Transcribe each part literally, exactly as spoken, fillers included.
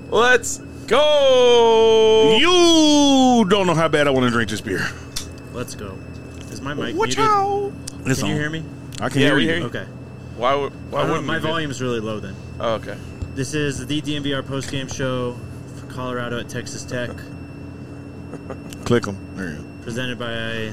Let's go. You don't know how bad I want to drink this beer. Let's go. Is my mic Watch muted? out. Can It's you on. hear me? I can Yeah, hear we you. hear you. Okay. Why? would- Why I don't know, wouldn't my we be? volume's really low then. Oh, okay. This is the D M V R postgame show for Colorado at Texas Tech, Click them. There you go. presented by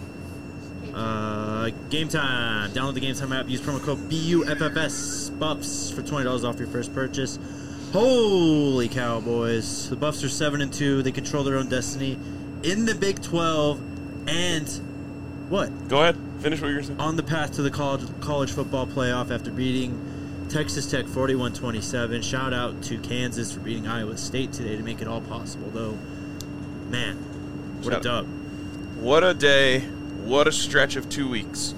uh, Game Time. Download the Game Time app. Use promo code B U F F S Buffs for twenty dollars off your first purchase. Holy cow, boys! The Buffs are seven and two. They control their own destiny in the Big twelve, and what? Go ahead. Finish what you're saying. On the path to the college college football playoff after beating Texas Tech forty-one twenty-seven. Shout out to Kansas for beating Iowa State today to make it all possible, though. Man, what Shout a dub. What a day. What a stretch of two weeks.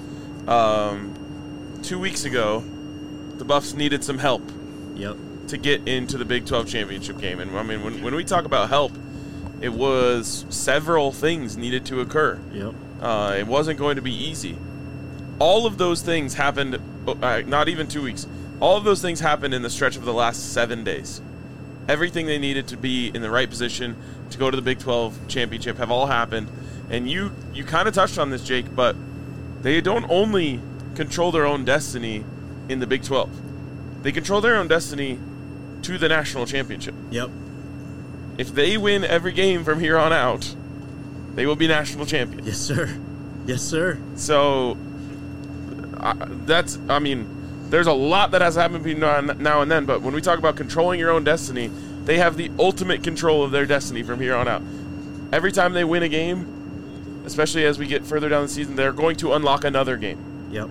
Um, two weeks ago, the Buffs needed some help Yep. to get into the Big twelve championship game. And, I mean, when, when we talk about help, it was several things needed to occur. Yep. Uh, it wasn't going to be easy. All of those things happened, uh, not even two weeks. All of those things happened in the stretch of the last seven days. Everything they needed to be in the right position to go to the Big twelve championship have all happened. And you, you kind of touched on this, Jake, but they don't only control their own destiny in the Big twelve. They control their own destiny to the national championship. Yep. If they win every game from here on out, they will be national champions. Yes, sir. Yes, sir. So uh, that's, I mean, there's a lot that has happened between now and, now and then, but when we talk about controlling your own destiny, they have the ultimate control of their destiny from here on out. Every time they win a game, especially as we get further down the season, they're going to unlock another game. Yep.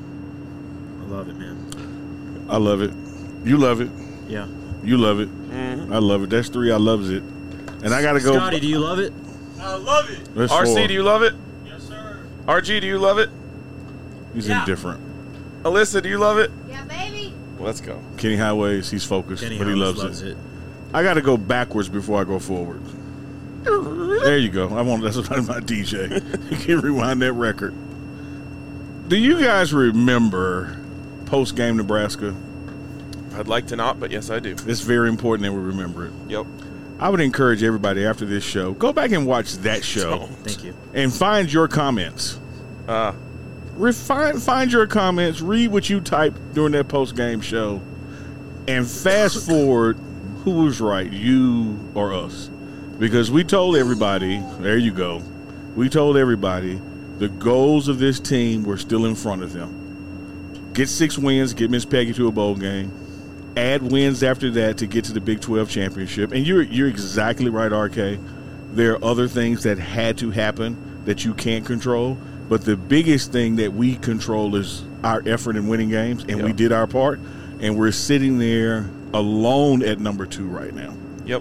I love it, man. I love it. You love it. Yeah. You love it. Mm-hmm. I love it. That's three. I loves it. And I got to go. Scotty, do you love it? I love it. That's R C, four. do you love it? Yes, sir. R G, do you love it? He's Yeah. indifferent. Alyssa, do you love it? Yeah, baby. Let's go. Kenny Highways, he's focused, Kenny but he Holmes loves, loves it. it. I got to go backwards before I go forward. There you go. I want that's what my D J. You can rewind that record. Do you guys remember post game Nebraska? I'd like to not, but yes, I do. It's very important that we remember it. Yep. I would encourage everybody after this show, go back and watch that show Don't. Thank you. and find your comments. Uh, Refine, find your comments, read what you typed during that post game show, and fast forward who was right, you or us. Because we told everybody, there you go, we told everybody the goals of this team were still in front of them. Get six wins, get Miss Peggy to a bowl game, add wins after that to get to the Big twelve championship. And you're you're exactly right, R K. There are other things that had to happen that you can't control. But the biggest thing that we control is our effort in winning games, and Yep. we did our part. And we're sitting there alone at number two right now. Yep.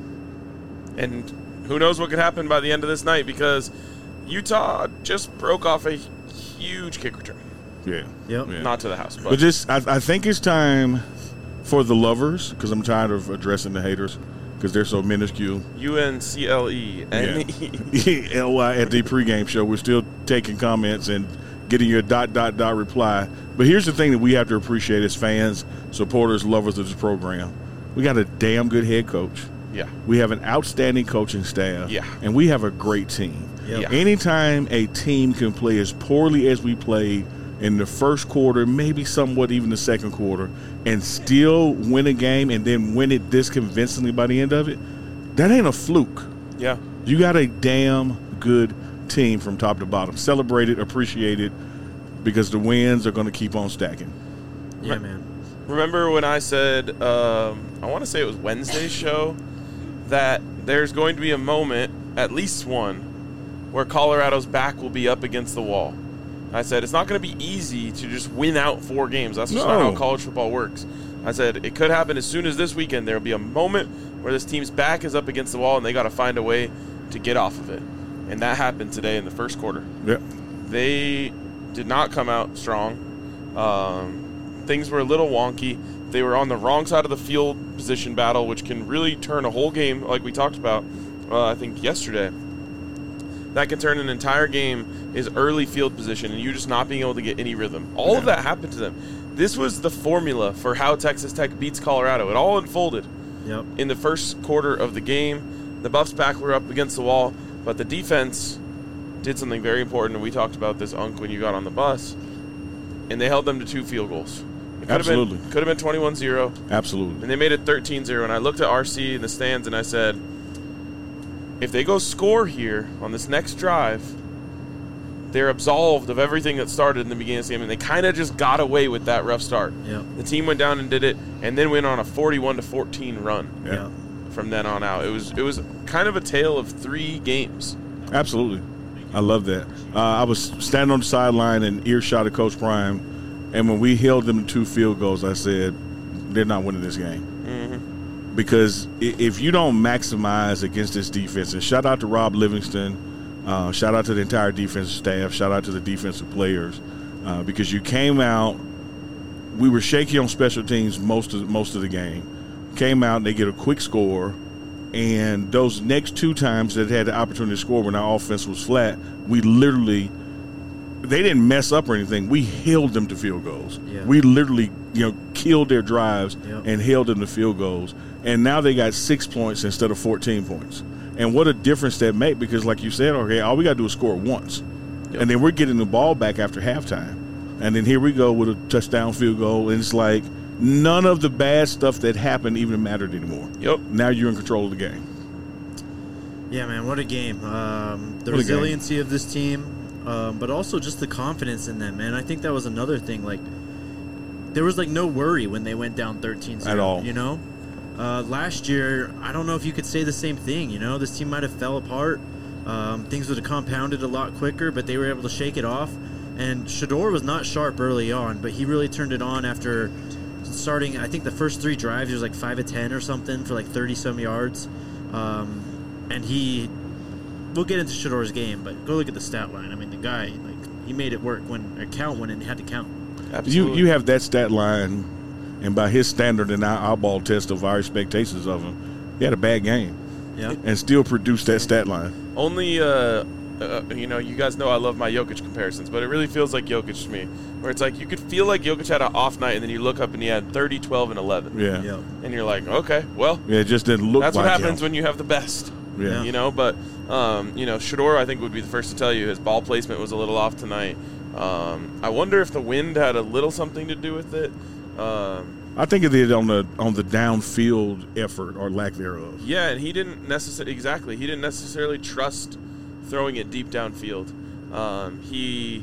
And who knows what could happen by the end of this night, because Utah just broke off a huge kick return. Yeah. Yep. Yeah. Not to the house, but, But just, I, I think it's time for the lovers, because I'm tired of addressing the haters, because they're so minuscule. U N C L E N E. L Y at the pregame show. We're still taking comments and getting your dot, dot, dot reply. But here's the thing that we have to appreciate as fans, supporters, lovers of this program. We got a damn good head coach. Yeah. We have an outstanding coaching staff. Yeah. And we have a great team. Yep. Yeah. Anytime a team can play as poorly as we played in the first quarter, maybe somewhat even the second quarter, and still win a game and then win it this convincingly by the end of it, that ain't a fluke. Yeah. You got a damn good team from top to bottom. Celebrate it, appreciate it, because the wins are going to keep on stacking. Yeah, man. Remember when I said, um, I want to say it was Wednesday's show, that there's going to be a moment, at least one, where Colorado's back will be up against the wall. I said, it's not going to be easy to just win out four games. That's just not No. how college football works. I said, it could happen as soon as this weekend. There will be a moment where this team's back is up against the wall, and they got to find a way to get off of it. And that happened today in the first quarter. Yep. They did not come out strong. Um, things were a little wonky. They were on the wrong side of the field position battle, which can really turn a whole game, like we talked about, uh, I think, yesterday. That can turn an entire game is early field position and you just not being able to get any rhythm. All Yeah. of that happened to them. This was the formula for how Texas Tech beats Colorado. It all unfolded. Yep. in the first quarter of the game. The Buffs back were up against the wall, but the defense did something very important, and we talked about this, Unc, when you got on the bus, and they held them to two field goals. It could Absolutely. Have been, could have been twenty-one zero, Absolutely. and they made it thirteen zero, and I looked at R C in the stands, and I said, if they go score here on this next drive, they're absolved of everything that started in the beginning of the game, and they kind of just got away with that rough start. Yep. The team went down and did it, and then went on a forty-one to fourteen run Yeah. Yep. from then on out. It was it was kind of a tale of three games. Absolutely. I love that. Uh, I was standing on the sideline in earshot of Coach Prime, and when we held them to two field goals, I said, they're not winning this game. Mm-hmm. Because i- if you don't maximize against this defense, and shout out to Rob Livingston, uh, shout out to the entire defensive staff, shout out to the defensive players, uh, because you came out, we were shaky on special teams most of most of the game. Came out and they get a quick score, and those next two times that had the opportunity to score when our offense was flat, we literally they didn't mess up or anything. We held them to field goals. Yeah. We literally, you know, killed their drives Yep. and held them to field goals. And now they got six points instead of fourteen points. And what a difference that make, because like you said, okay, all we got to do is score once. Yep. And then we're getting the ball back after halftime. And then here we go with a touchdown field goal, and it's like none of the bad stuff that happened even mattered anymore. Yep. Now you're in control of the game. Yeah, man, what a game. Um, the What a game. resiliency of this team, um, but also just the confidence in them, man. I think that was another thing. Like, there was, like, no worry when they went down thirteen zero. At all. You know? Uh, last year, I don't know if you could say the same thing, you know? This team might have fell apart. Um, things would have compounded a lot quicker, but they were able to shake it off. And Shador was not sharp early on, but he really turned it on after starting, I think the first three drives, he was like five of ten or something for like thirty-some yards. Um, and he, we'll get into Shador's game, but go look at the stat line. I mean, the guy, like, he made it work when, or count when it had to count. You Absolutely. you have that stat line, and by his standard and our, our ball test of our expectations of him, he had a bad game Yeah. and still produced that stat line. Only, uh, uh, you know, you guys know I love my Jokic comparisons, but it really feels like Jokic to me, where it's like you could feel like Jokic had an off night, and then you look up and he had thirty, twelve, and eleven. Yeah. Yep. And you're like, okay, well, Yeah, it just didn't look that's like what happens him. when you have the best. Yeah. You know, but, um, you know, Shador, I think, would be the first to tell you his ball placement was a little off tonight. Um, I wonder if the wind had a little something to do with it. Um, I think it did on the on the downfield effort or lack thereof. Yeah, and he didn't necessarily exactly. He didn't necessarily trust throwing it deep downfield. Um, he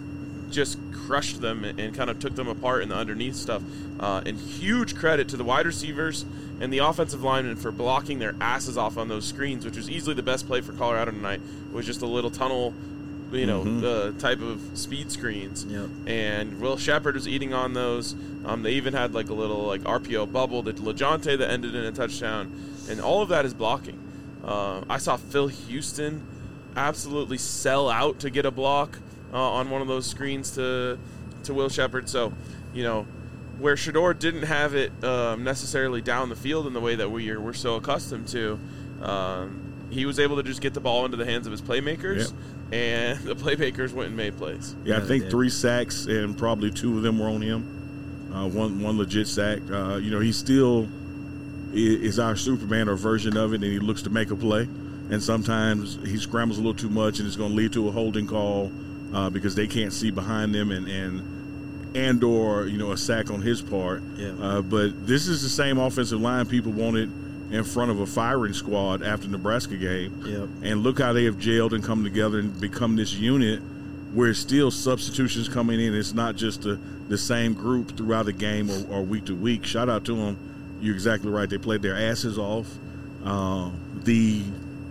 just crushed them and, and kind of took them apart in the underneath stuff. Uh, and huge credit to the wide receivers and the offensive linemen for blocking their asses off on those screens, which was easily the best play for Colorado tonight. It was just a little tunnel, you know, Mhm. uh, type of speed screens. Yep. And Will Shepard was eating on those. Um, they even had like a little like R P O bubble that LeJounte that ended in a touchdown, and all of that is blocking. Uh, I saw Phil Houston absolutely sell out to get a block uh, on one of those screens to to Will Shepard. So, you know, where Shador didn't have it um, necessarily down the field in the way that we are we're so accustomed to, um, he was able to just get the ball into the hands of his playmakers, and the playmakers went and made plays. Yeah, I Yeah, think they did. three sacks and probably two of them were on him. Uh, one one legit sack. Uh, you know, he still i- is our Superman or version of it, and he looks to make a play. And sometimes he scrambles a little too much, and it's going to lead to a holding call uh, because they can't see behind them, and and and or you know a sack on his part. Yeah. Uh, but this is the same offensive line people wanted in front of a firing squad after the Nebraska game. Yep. And look how they have gelled and come together and become this unit where it's still substitutions coming in. It's not just the, the same group throughout the game or, or week to week. Shout out to them. You're exactly right. They played their asses off. Uh, the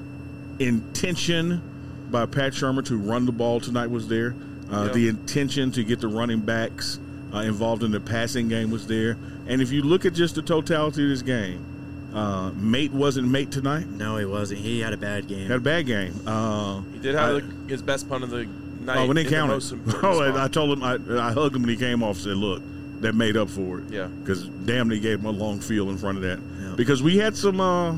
intention by Pat Shermer to run the ball tonight was there. Uh, Yeah. The intention to get the running backs uh, involved in the passing game was there. And if you look at just the totality of this game, uh, Mate wasn't Mate tonight. No, he wasn't. He had a bad game. Had a bad game. Uh, He did have I- the, his best punt of the night. oh, when they in the counted. most important Oh, and spot. I told him, I, I hugged him when he came off and said, look, that made up for it. Yeah. Because damn, they gave him a long field in front of that. Yeah. Because we had some uh,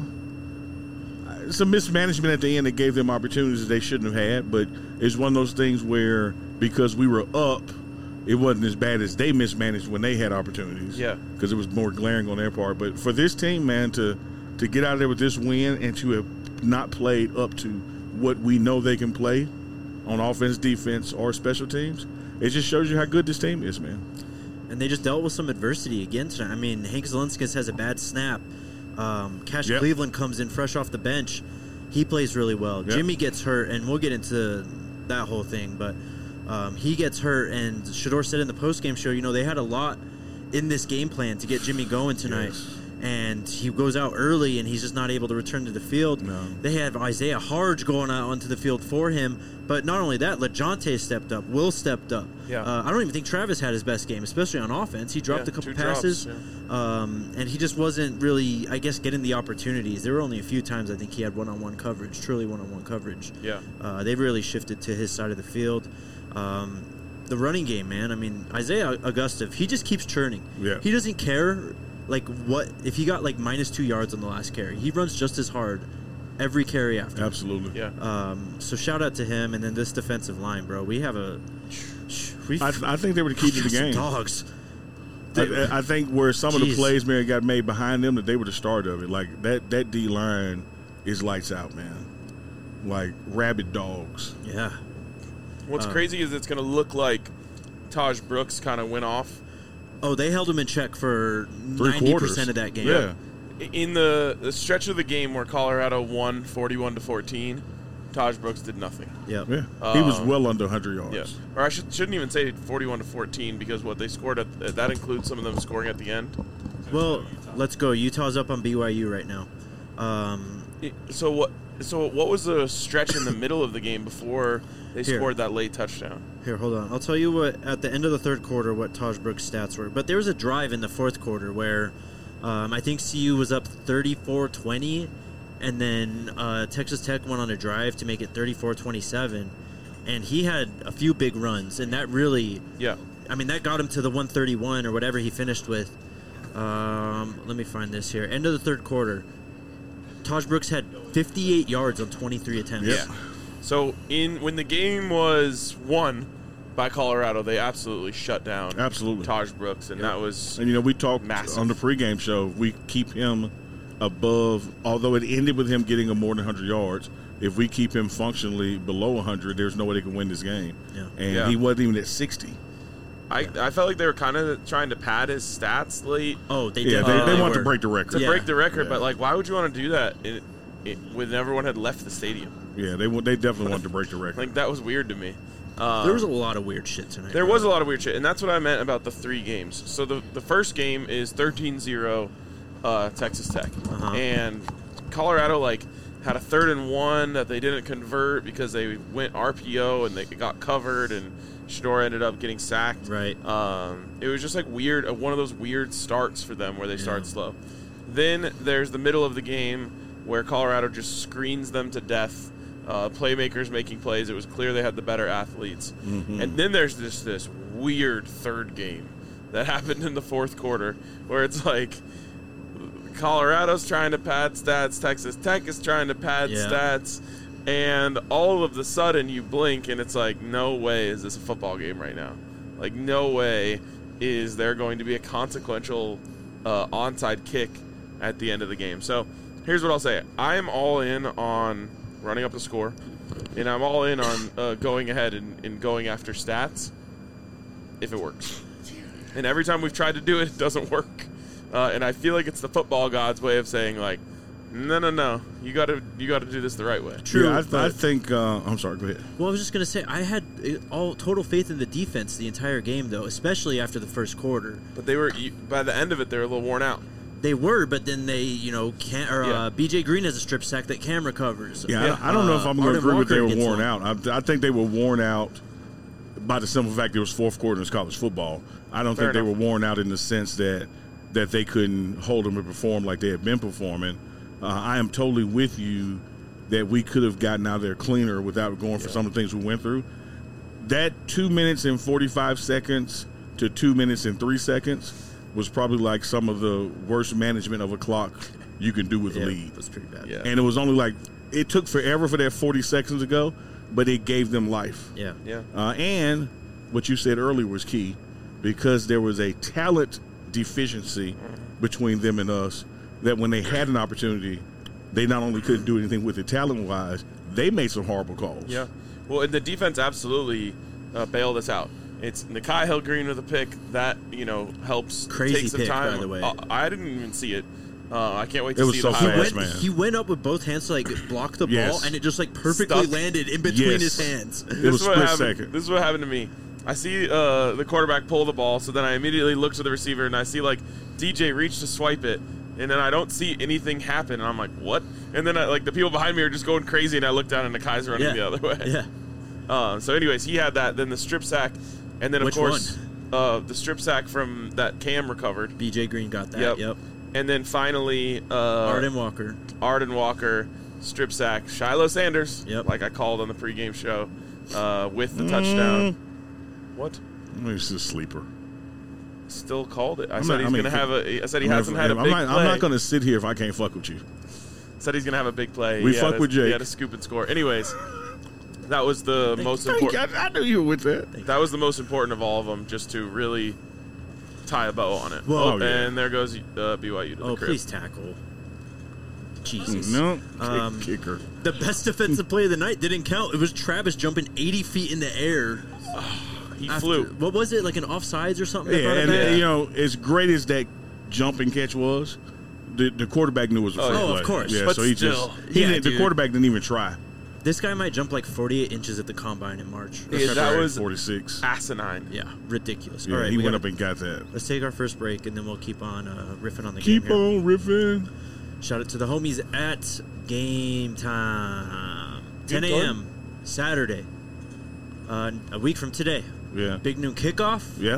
some mismanagement at the end that gave them opportunities that they shouldn't have had. But it's one of those things where because we were up, it wasn't as bad as they mismanaged when they had opportunities. Yeah. Because it was more glaring on their part. But for this team, man, to to get out of there with this win and to have not played up to what we know they can play on offense, defense, or special teams, it just shows you how good this team is, man. And they just dealt with some adversity again tonight. I mean, Hank Zielinskis has a bad snap. Um, Cash Yep. Cleveland comes in fresh off the bench. He plays really well. Yep. Jimmy gets hurt, and we'll get into that whole thing. But um, he gets hurt, and Shador said in the postgame show, you know, they had a lot in this game plan to get Jimmy going tonight. Yes. And he goes out early, and he's just not able to return to the field. No. They have Isaiah Harge going out onto the field for him. But not only that, LeJounte stepped up. Will stepped up. Yeah. Uh, I don't even think Travis had his best game, especially on offense. He dropped Yeah, a couple two drops, passes, yeah. um, and he just wasn't really, I guess, getting the opportunities. There were only a few times I think he had one-on-one coverage, truly one-on-one coverage. Yeah. Uh, they've really shifted to his side of the field. Um, the running game, man. I mean, Isaiah Augusta, he just keeps churning. Yeah. He doesn't care, like, what if he got like minus two yards on the last carry. He runs just as hard every carry after. Absolutely. Yeah. Um, so shout out to him, and then this defensive line, bro. We have a. We I, I think they were the key to the some game. dogs. I, I think where some of the Jeez. plays, man, got made behind them, that they were the start of it. Like, that, that D-line is lights out, man. Like, rabid dogs. Yeah. What's Uh, crazy is it's going to look like Taj Brooks kind of went off. Oh, they held him in check for Three ninety quarters. percent of that game. Yeah. In the, the stretch of the game where Colorado won forty-one to fourteen, Taj Brooks did nothing. Yep. Yeah. He was Um, well under one hundred yards. Yeah. Or I should, shouldn't even say forty-one to fourteen because what they scored, at that includes some of them scoring at the end. Well, let's go. Utah's up on B Y U right now. Um, It- So what So what was the stretch in the middle of the game before they Here. scored that late touchdown? here, hold on. I'll tell you what, at the end of the third quarter, what Taj Brooks' stats were. But there was a drive in the fourth quarter where um, I think C U was up thirty-four twenty, and then uh, Texas Tech went on a drive to make it thirty-four twenty-seven. And he had a few big runs, and that really, Yeah. I mean, that got him to the one thirty-one or whatever he finished with. Um, let me find this here. End of the third quarter. Taj Brooks had fifty-eight yards on twenty-three attempts. Yeah. So in when the game was won by Colorado, they absolutely shut down Absolutely. Taj Brooks, and that was And, you know, we talked Massive. on the pregame show, we keep him above, although it ended with him getting a more than one hundred yards, if we keep him functionally below one hundred, there's no way they can win this game. Yeah. And Yeah. he wasn't even at sixty. I, I felt like they were kind of trying to pad his stats late Oh, they Yeah, did. they, Uh, they they want to were. break the to record. Yeah. break the record, Yeah. but like, why would you want to do that it, it, when everyone had left the stadium? Yeah, they wa- they definitely wanted to break the record. Like that was weird to me. Um, There was a lot of weird shit tonight. There bro. was a lot of weird shit, and that's what I meant about the three games. So the, the first game is thirteen zero uh, Texas Tech. Uh-huh. And Colorado, like, had a third and one that they didn't convert because they went R P O and they got covered, and Shador ended up getting sacked. Right. Um, it was just, like, weird, uh, one of those weird starts for them where they start Yeah. slow. Then there's the middle of the game where Colorado just screens them to death. Uh, playmakers making plays. It was clear they had the better athletes. Mm-hmm. And then there's this this weird third game that happened in the fourth quarter where it's like Colorado's trying to pad stats, Texas Tech is trying to pad Yeah. stats, and all of the sudden you blink and it's like, no way is this a football game right now. Like, no way is there going to be a consequential uh, onside kick at the end of the game. So here's what I'll say. I'm all in on running up the score, and I'm all in on uh, going ahead and, and going after stats if it works. And every time we've tried to do it, it doesn't work. Uh, and I feel like it's the football gods' way of saying, like, no, no, no, you got to you got to do this the right way. True. yeah, I, but- I think. Uh, I'm sorry. Go ahead. Well, I was just gonna say I had uh, all total faith in the defense the entire game, though, especially after the first quarter. But they were you, by the end of it, they were a little worn out. They were, but then they, you know, can't. Or Yeah. uh, B J Green has a strip sack that Cam recovers. Yeah, Yeah. I, I don't know if Uh, I'm going to Arden agree with they Walker were gets worn one. out. I, I think they were worn out by the simple fact it was fourth quarter in college football. I don't Fair think they enough. were worn out in the sense that that they couldn't hold them and perform like they had been performing. Uh, I am totally with you that we could have gotten out there cleaner without going for Yeah. some of the things we went through. That two minutes and forty-five seconds to two minutes and three seconds was probably like some of the worst management of a clock you can do with Yeah, a lead. it was pretty bad. Yeah. And it was only like it took forever for that forty seconds to go, but it gave them life. Yeah. Yeah. Uh, and what you said earlier was key, because there was a talent deficiency between them and us, that when they had an opportunity, they not only couldn't do anything with it talent-wise, they made some horrible calls. Yeah. Well, and the defense absolutely uh, bailed us out. It's Nakai Hill-Green with a pick. That, you know, helps Crazy take some pick, time. by the way. Uh, I didn't even see it. Uh, I can't wait to It was see so the He fast, highlights. went, man. he went up with both hands to like block the Yes. ball, and it just like perfectly Stuck. landed in between Yes. his hands. It This was is what split happened. second. This is what happened to me. I see uh, the quarterback pull the ball, so then I immediately look to the receiver, and I see, like, D J reach to swipe it, and then I don't see anything happen, and I'm like, what? And then, I, like, the people behind me are just going crazy, and I look down, and Nakai's running Yeah. the other way. Yeah. Uh, so, anyways, he had that. Then the strip sack, and then, of Which course, uh, the strip sack from that Cam recovered. B J Green got that. Yep. Yep. And then finally, uh, Arden Walker. Arden Walker, strip sack. Shiloh Sanders, Yep. like I called on the pregame show, uh, with the touchdown. Mm. What? It's a sleeper. Still called it. I I'm said not- he's I mean, going to have a. I said he I'm hasn't not- had a I'm big not, play. I'm not going to sit here if I can't fuck with you. Said he's going to have a big play. We He fuck had a, with Jake. He had a scoop and score. Anyways, that was the most Thank important. you. I, I knew you were with that. That was the most important of all of them, just to really tie a bow on it. Well- oh, Oh, yeah. and there goes uh, B Y U to the Oh, crib. please tackle. Jesus. No, Um, Kick- kicker. The best defensive play of the night didn't count. It was Travis jumping eighty feet in the air. He after- flew. What was it, like an offsides or something? that Yeah, brought it and back? uh, you know, as great as that jumping catch was, the, the quarterback knew it was a Oh, free oh, of play. course. Yeah, But so he still. just he Yeah, didn't, the dude. quarterback didn't even try. This guy might jump like forty-eight inches at the combine in March. Yeah, that February was forty-six. asinine. Yeah, ridiculous. Yeah, All right, he we went gotta- up and got that. Let's take our first break, and then we'll keep on uh, riffing on the Keep game here. on riffing. Shout out to the homies at Game Time. ten Good a.m. Saturday. Uh, a week from today. Yeah, Big noon kickoff, yeah.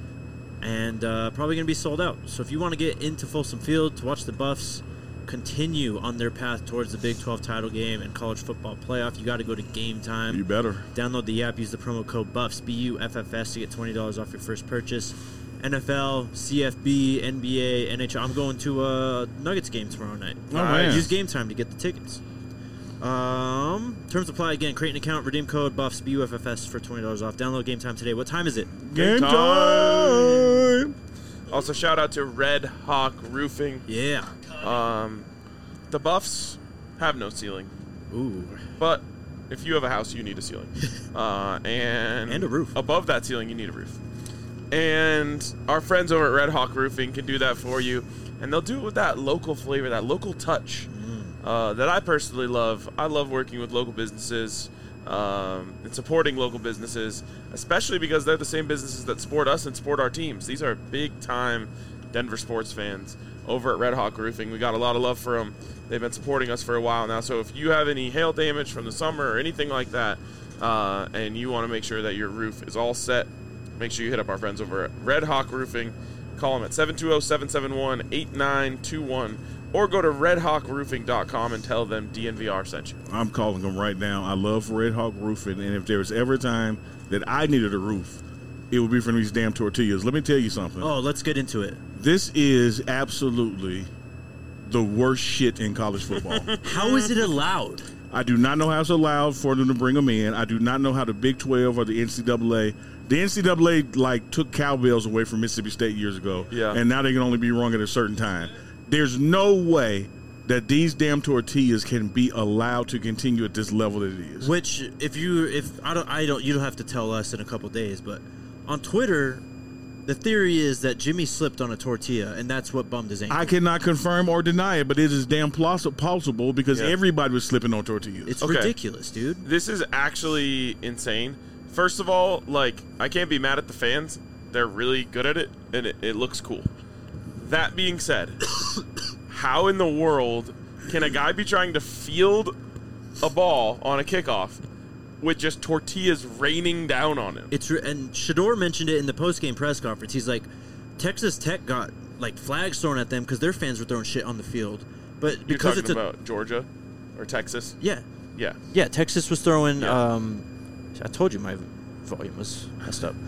and uh, probably going to be sold out. So if you want to get into Folsom Field to watch the Buffs continue on their path towards the Big twelve title game and college football playoff, you got to go to Game Time. You better. Download the app, use the promo code BUFFS, B U F F S, to get twenty dollars off your first purchase. N F L, C F B, N B A, N H L. I'm going to a Nuggets game tomorrow night. Oh, man. Use Game Time to get the tickets. Um, terms apply again. Create an account, redeem code BUFFS, B U F F S for twenty dollars off. Download Game Time today. What time is it? Game time. time. Also, shout out to Red Hawk Roofing. Yeah. Um, the Buffs have no ceiling, Ooh. but if you have a house, you need a ceiling, uh, and And a roof. Above that ceiling, you need a roof. And our friends over at Red Hawk Roofing can do that for you, and they'll do it with that local flavor, that local touch uh, that I personally love. I love working with local businesses um, and supporting local businesses, especially because they're the same businesses that support us and support our teams. These are big-time Denver sports fans over at Red Hawk Roofing. We got a lot of love for them. They've been supporting us for a while now. So if you have any hail damage from the summer or anything like that, uh, and you want to make sure that your roof is all set, make sure you hit up our friends over at Red Hawk Roofing. Call them at seven two zero, seven seven one, eight nine two one or go to red hawk roofing dot com and tell them D N V R sent you. I'm calling them right now. I love Red Hawk Roofing, and if there was ever a time that I needed a roof, it would be from these damn tortillas. Let me tell you something. Oh, let's get into it. This is absolutely the worst shit in college football. How is it allowed? I do not know how it's allowed for them to bring them in. I do not know how the Big twelve or the N C double A. The N C double A like took cowbells away from Mississippi State years ago, Yeah. and now they can only be rung at a certain time. There's no way that these damn tortillas can be allowed to continue at this level that it is. Which, if you, if I don't, I don't, you don't have to tell us in a couple days. But on Twitter, the theory is that Jimmy slipped on a tortilla, and that's what bummed his ankle. I cannot confirm or deny it, but it is damn plausi- plausible because Yeah. everybody was slipping on tortillas. It's Okay. ridiculous, dude. This is actually insane. First of all, like, I can't be mad at the fans. They're really good at it, and it, it looks cool. That being said, how in the world can a guy be trying to field a ball on a kickoff with just tortillas raining down on him? It's re- and Shador mentioned it in the post-game press conference. He's like, Texas Tech got like flags thrown at them because their fans were throwing shit on the field, but You're because talking it's a about Georgia or Texas? yeah, Yeah. yeah, Texas was throwing. Yeah. Um, I told you my volume was messed up.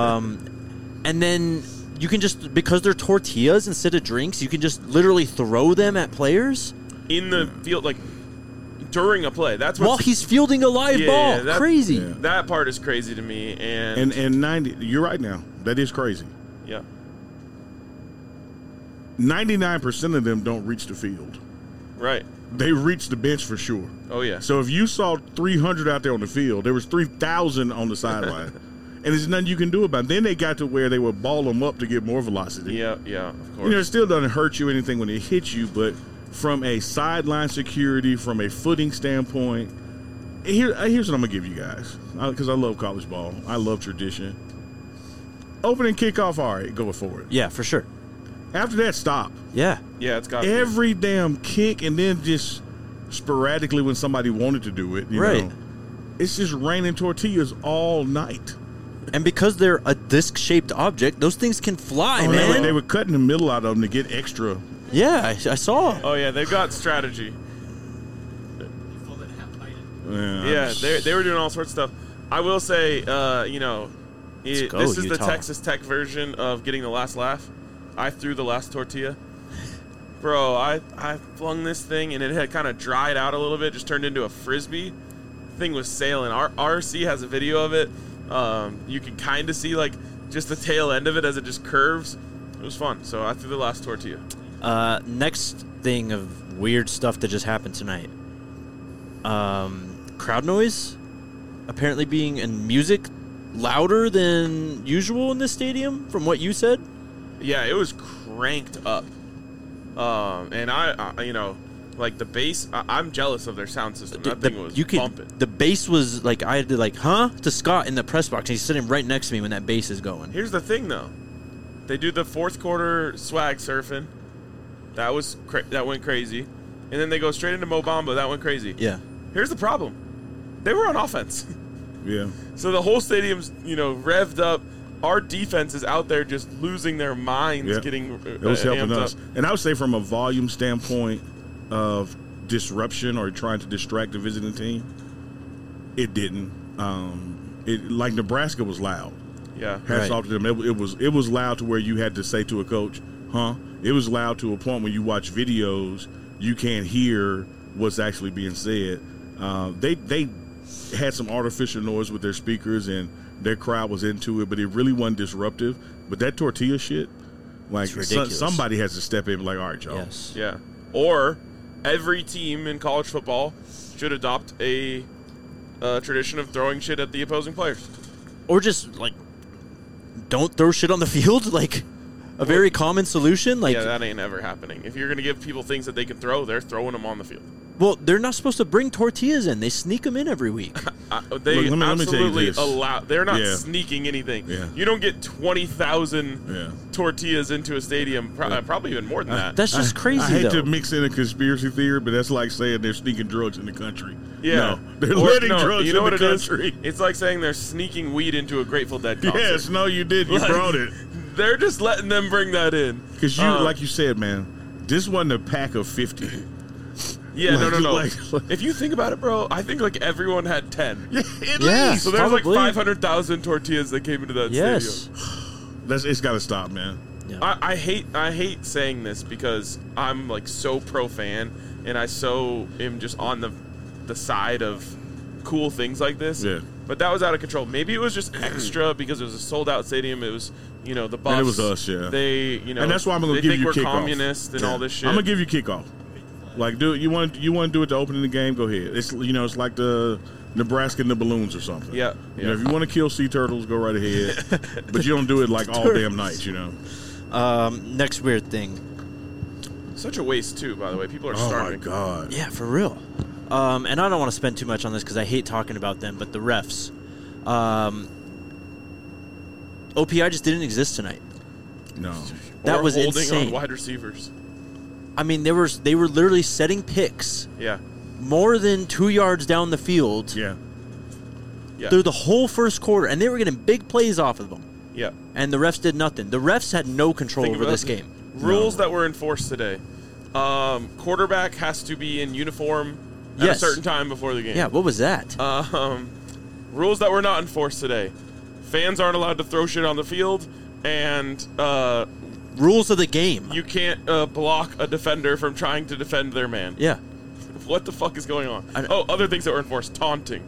Um, and then you can just, because they're tortillas instead of drinks, you can just literally throw them at players. In the field, like, during a play. That's what While he's fielding a live Yeah, ball. yeah, that- Crazy. Yeah. that part is crazy to me. And, And and ninety, you're right now. That is crazy. yeah, ninety-nine percent of them don't reach the field. right. They reach the bench for sure. Oh yeah. So if you saw three hundred out there on the field, there was three thousand on the sideline. And there's nothing you can do about it. Then they got to where they would ball them up to get more velocity. yeah, yeah, of course. You know, it still doesn't hurt you anything when it hits you, but from a sideline security, from a footing standpoint, here, here's what I'm going to give you guys, because I love college ball. I love tradition. Opening kickoff, all right, go for it. Yeah, for sure. After that, stop. Yeah. yeah, it's got Every damn kick, and then just sporadically when somebody wanted to do it, you Right. know, it's just raining tortillas all night. And because they're a disc-shaped object, those things can fly, Oh, they, man. were, they were cutting the middle out of them to get extra. Yeah, I, I saw. Oh yeah, they've got strategy. Yeah, Yeah, they they were doing all sorts of stuff. I will say, uh, you know, it, go, this is the Utah. Texas Tech version of getting the last laugh. I threw the last tortilla. Bro, I, I flung this thing, and it had kind of dried out a little bit, just turned into a Frisbee. Thing was sailing. Our R C has a video of it. Um, you can kind of see, like, just the tail end of it as it just curves. It was fun, so I threw the last tortilla. Uh, next thing of weird stuff that just happened tonight. Um, crowd noise apparently being in music louder than usual in this stadium, from what you said. Yeah, it was cranked up. Um, and I, I, you know, like the bass, I, I'm jealous of their sound system. That the, thing was you could, bumping. The bass was like, I had to like, huh? To Scott in the press box. He's sitting right next to me when that bass is going. Here's the thing, though. They do the fourth quarter swag surfing. That was cra- that went crazy. And then they go straight into Mo Bamba. That went crazy. Yeah. Here's the problem. They were on offense. Yeah. So the whole stadium's, you know, revved up. Our defense is out there just losing their minds, Yeah. getting uh, It was helping amped us. up. And I would say from a volume standpoint of disruption or trying to distract the visiting team, it didn't. Um, it like Nebraska was loud. Yeah. Hats Right. off to them. It, it was it was loud to where you had to say to a coach, "Huh?" It was loud to a point when you watch videos, you can't hear what's actually being said. Uh, they they had some artificial noise with their speakers and their crowd was into it, but it really wasn't disruptive. But that tortilla shit, like It's so, ridiculous. somebody has to step in and be like, all right, y'all. Yes. Yeah. Or every team in college football should adopt a uh, tradition of throwing shit at the opposing players. Or just like, don't throw shit on the field. Like, a very common solution. Like, yeah, that ain't ever happening. If you're going to give people things that they can throw, they're throwing them on the field. well, they're not supposed to bring tortillas in. They sneak them in every week. Uh, they Look, let me- let me tell you absolutely this. allow. They're not Yeah. sneaking anything. Yeah. You don't get twenty thousand Yeah. tortillas into a stadium. Pro- uh, probably even more than that. That's just crazy, I hate though. to mix in a conspiracy theory, but that's like saying they're sneaking drugs in the country. yeah, No, they're Or- letting no, drugs You know in what the it is? country. It's like saying they're sneaking weed into a Grateful Dead concert. Yes, no, you did. You Like, brought it. They're just letting them bring that in. Because you, Um, like you said, man, this wasn't a pack of fifty. Yeah, no, like- no, no. like- like- if you think about it, bro, I think like everyone had ten. Yeah, at Yeah. least. So there's Probably. like five hundred thousand tortillas that came into that yes. stadium. That's, it's got to stop, man. Yeah. I, I hate I hate saying this because I'm like so pro fan and I so am just on the the side of cool things like this. Yeah. But that was out of control. Maybe it was just extra because it was a sold out stadium. It was, you know, the Buffs. And it was us, yeah. They, you know, And that's why I'm going they to give think you we're kickoff. communist and Yeah. all this shit. I'm going to give you kickoff. Like, do you want you want to do it to open the game? Go ahead. It's you know, it's like the Nebraska and the balloons or something. Yeah, You know, yeah. if you want to kill sea turtles, go right ahead. But you don't do it like all damn night. You know. Um, next weird thing. Such a waste too, by the way. People are Oh my starving. god. Yeah, for real. Um, and I don't want to spend too much on this because I hate talking about them, but the refs. Um, O P I just didn't exist tonight. No. That Or was holding insane. on wide receivers. I mean, they were they were literally setting picks Yeah, more than two yards down the field Yeah. yeah, through the whole first quarter, and they were getting big plays off of them. yeah. And the refs did nothing. The refs had no control Think over about this it. game. Rules that were enforced today. Um, quarterback has to be in uniform at Yes. a certain time before the game. Yeah, what was that? Um, rules that were not enforced today. Fans aren't allowed to throw shit on the field, and uh, Rules of the game. you can't uh, block a defender from trying to defend their man. yeah. what the fuck is going on? I- Oh, other things that were enforced. Taunting.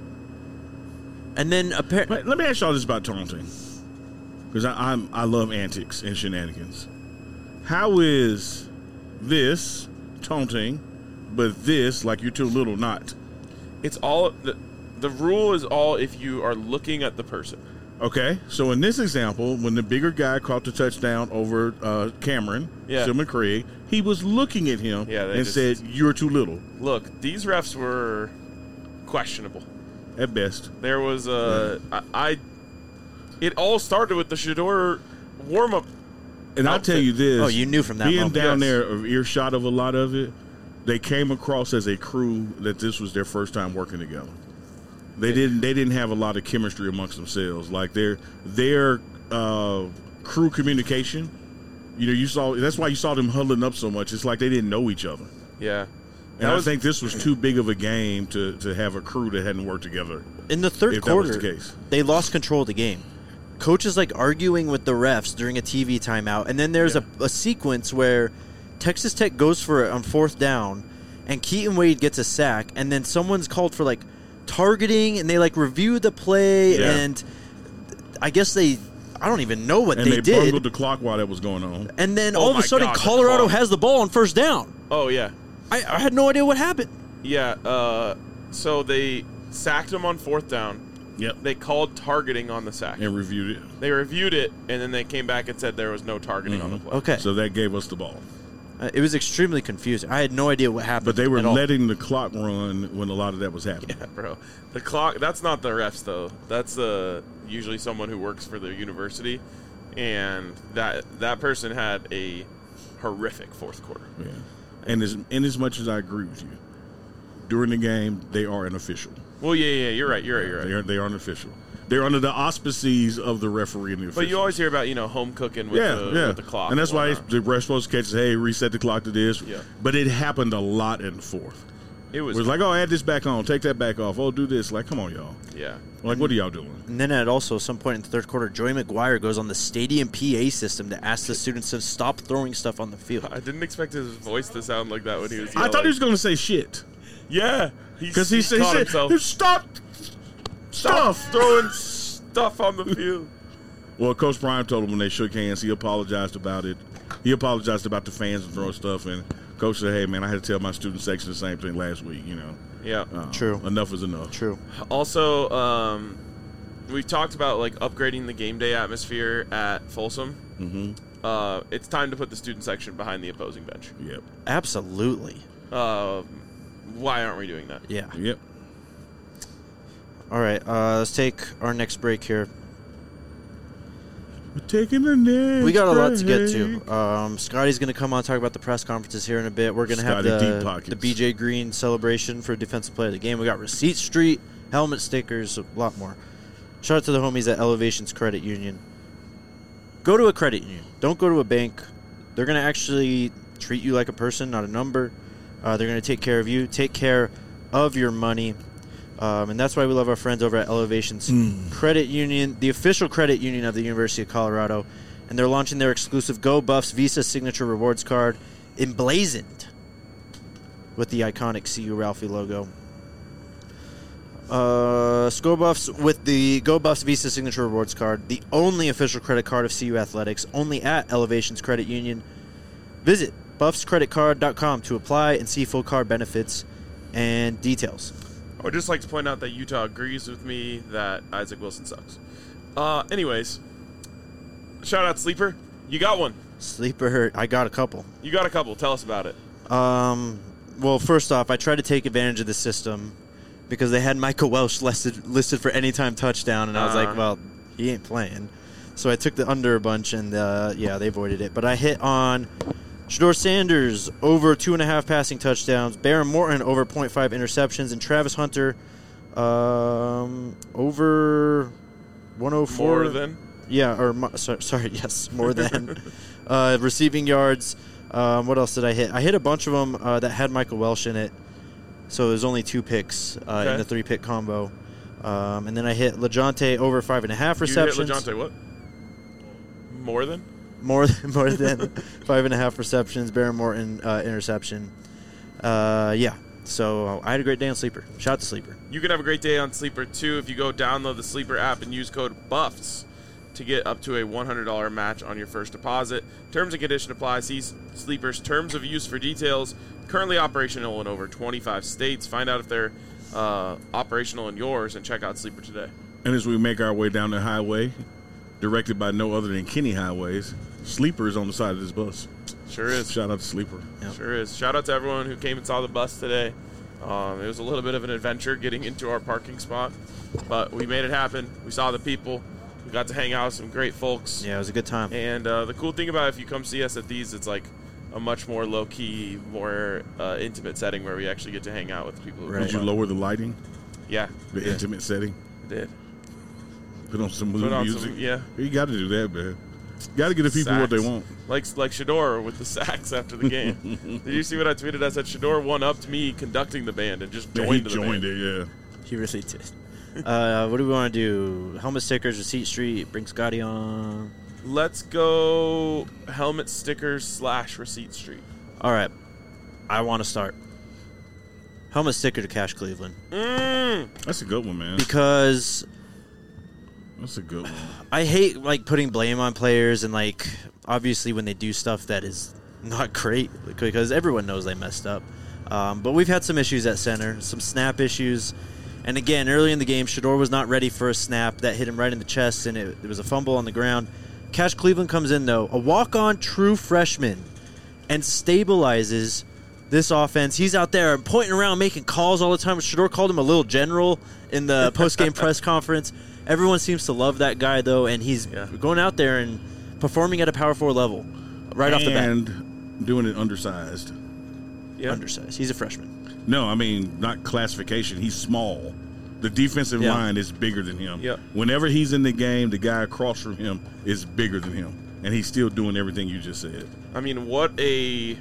And then apparently, But let me ask y'all this about taunting, because I, I'm I love antics and shenanigans. How is this taunting, but this like you're too little not? It's all the, the rule is all if you are looking at the person. Okay, so in this example, when the bigger guy caught the touchdown over uh, Cameron, Yeah. Silman Craig, he was looking at him Yeah, they and just- said, "You're too little," Look, these refs were questionable. at best. There was a I, I it all started with the Shador warm up. And I'll tell you this: Oh, you knew from that being moment. down Yes. there, of earshot of a lot of it, they came across as a crew that this was their first time working together. They didn't. They didn't have a lot of chemistry amongst themselves. Like their their uh, crew communication. You know, you saw. That's why you saw them huddling up so much. It's like they didn't know each other. Yeah. And That I was- think this was too big of a game to, to have a crew that hadn't worked together. in the third If that was quarter, the case. they lost control of the game. Coach is like arguing with the refs during a T V timeout, and then there's Yeah. a, a sequence where Texas Tech goes for it on fourth down, and Keaton Wade gets a sack, and then someone's called for like targeting, and they like review the play, Yeah. and I guess they, I don't even know what And they, they, did. bungled the clock while that was going on. And then Oh all of my a sudden, God, the Colorado clock. has the ball on first down. Oh yeah. I, I had no idea what happened. Yeah. Uh, so they sacked him on fourth down. Yep. They called targeting on the sack. And reviewed it. They reviewed it, and then they came back and said there was no targeting on the play. Okay, So that gave us the ball. Uh, it was extremely confusing. I had no idea what happened. But they were at all. letting the clock run when a lot of that was happening. Yeah, bro. The clock. That's not the refs though. That's uh, usually someone who works for the university, and that that person had a horrific fourth quarter. Yeah. And as, and as much as I agree with you, during the game, they are an official. Well, yeah, yeah. You're right. You're right. You're right. They are, they are an official. They're under the auspices of the referee and the official. But you always hear about, you know, home cooking with, yeah, the, yeah. with the clock. And that's why whatnot. the ref's supposed to catch, hey, reset the clock to this. Yeah. But it happened a lot in the fourth. it It was, was like, oh, add this back on. Take that back off. Oh, do this. Like, come on, y'all. yeah. Like, what are y'all doing? And then at also some point in the third quarter, Joey McGuire goes on the stadium P A system to ask the students to stop throwing stuff on the field. I didn't expect his voice to sound like that when he was I yelling. thought he was going to say shit. Yeah. Because he, said, caught he himself. said, stop Stop stuff. throwing stuff on the field. Well, Coach Prime told him when they shook hands, he apologized about it. He apologized about the fans and throwing stuff. And Coach said, hey, man, I had to tell my student section the same thing last week, you know. Yeah. Uh, True. Enough is enough. True. Also, um, we've talked about like upgrading the game day atmosphere at Folsom. Mm-hmm. Uh, it's time to put the student section behind the opposing bench. Yep. Absolutely. Uh, why aren't we doing that? Yeah. Yep. All right. Uh, let's take our next break here. We're taking the next We got a lot to get break. to. Um, Scotty's going to come on and talk about the press conferences here in a bit. We're going to have Scotty Deep the, Pockets. the B J Green celebration for Defensive Player of the Game. We got Receipt Street, helmet stickers, a lot more. Shout out to the homies at Elevations Credit Union. Go to a credit union. Don't go to a bank. They're going to actually treat you like a person, not a number. Uh, they're going to take care of you, take care of your money. Um, and that's why we love our friends over at Elevations Credit Union, the official credit union of the University of Colorado. And they're launching their exclusive Go Buffs Visa Signature Rewards Card, emblazoned with the iconic C U Ralphie logo. Uh, Go Buffs with the Go Buffs Visa Signature Rewards Card, the only official credit card of C U Athletics, only at Elevations Credit Union. Visit buffs credit card dot com to apply and see full card benefits and details. I would just like to point out that Utah agrees with me that Isaac Wilson sucks. Uh, anyways, shout out Sleeper. You got one. Sleeper, I got a couple. You got a couple. Tell us about it. Um, well, first off, I tried to take advantage of the system because they had Michael Welsh listed listed for anytime touchdown, and I was Uh-huh. like, well, he ain't playing. So I took the under a bunch, and uh, yeah, they avoided it. But I hit on Shador Sanders over two and a half passing touchdowns, Baron Morton over point five interceptions, and Travis Hunter um, over one oh four. More than. Yeah, or mo- so, sorry, yes, more than uh, receiving yards. Um, what else did I hit? I hit a bunch of them uh, that had Michael Welsh in it, so it was only two picks uh, Okay. in the three pick combo. Um, and then I hit LeJounte over five and a half receptions. You hit LeJounte what? More than? More than more than five and a half receptions. Baron Morton uh, interception. Uh, yeah, So I had a great day on Sleeper. Shout out to Sleeper. You can have a great day on Sleeper, too, if you go download the Sleeper app and use code BUFFS to get up to a one hundred dollars match on your first deposit. Terms and conditions apply. See Sleeper's terms of use for details. Currently operational in over twenty-five states. Find out if they're uh, operational in yours and check out Sleeper today. And as we make our way down the highway, directed by no other than Kenny Highways, Sleeper is on the side of this bus. Sure is. Shout out to Sleeper. Yep. Sure is. Shout out to everyone who came and saw the bus today. Um, it was a little bit of an adventure getting into our parking spot, but we made it happen. We saw the people. We got to hang out with some great folks. Yeah, it was a good time. And uh, the cool thing about it, if you come see us at these, it's like a much more low-key, more uh, intimate setting where we actually get to hang out with people. Who Right. Did you lower the lighting? Yeah. The yeah, intimate setting? did. Put on some mood Put on music? some, yeah. You got to do that, man. Got to give the people what they Sax. want. Like like Shador with the sax after the game. Did you see what I tweeted? I said Shador one-upped me conducting the band and just Yeah, joined he the joined band. it, yeah. He really did. uh, what do we want to do? Helmet stickers, Receipt Street, bring Scotty on. Let's go helmet stickers slash receipt street. All right. I want to start. Helmet sticker to Cash Cleveland. Mm. That's a good one, man. Because That's a good one. I hate like putting blame on players and like obviously when they do stuff that is not great because everyone knows they messed up. Um, but we've had some issues at center, some snap issues. And again, early in the game, Shador was not ready for a snap that hit him right in the chest, and it, it was a fumble on the ground. Cash Cleveland comes in, though, a walk-on true freshman, and stabilizes this offense. He's out there pointing around, making calls all the time. Shador called him a little general in the post-game press conference. Everyone seems to love that guy, though, and he's Yeah. going out there and performing at a Power Four level right off the bat. And doing it undersized. Yeah. Undersized. He's a freshman. No, I mean, not classification. He's small. The defensive Yeah. line is bigger than him. Yep. Whenever he's in the game, the guy across from him is bigger than him. And he's still doing everything you just said. I mean, what a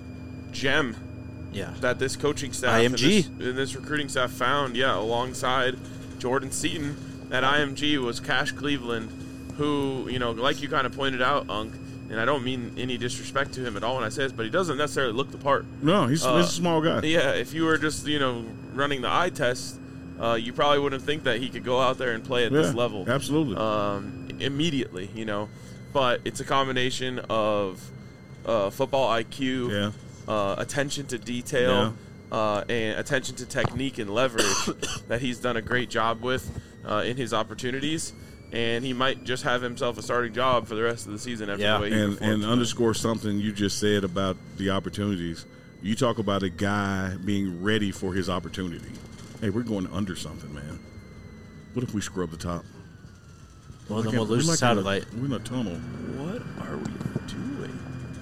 gem Yeah. that this coaching staff I M G. And, this, and this recruiting staff found, yeah, alongside Jordan Seaton at I M G was Cash Cleveland, who, you know, like you kind of pointed out, Unc, and I don't mean any disrespect to him at all when I say this, but he doesn't necessarily look the part. No, he's, Uh, he's a small guy. Yeah, if you were just, you know, running the eye test, uh, you probably wouldn't think that he could go out there and play at Yeah, this level. absolutely. Um, immediately, you know. But it's a combination of uh, football I Q, Yeah. uh, attention to detail, uh, and attention to technique and leverage that he's done a great job with uh, in his opportunities. And he might just have himself a starting job for the rest of the season after Yeah. the way he and performed and tonight. underscore something you just said about the opportunities. You talk about a guy being ready for his opportunity. Hey, we're going under something, man. What if we scrub the top? Well, then Like we'll in- lose we're the like in a- satellite. We're in a tunnel. What are we doing?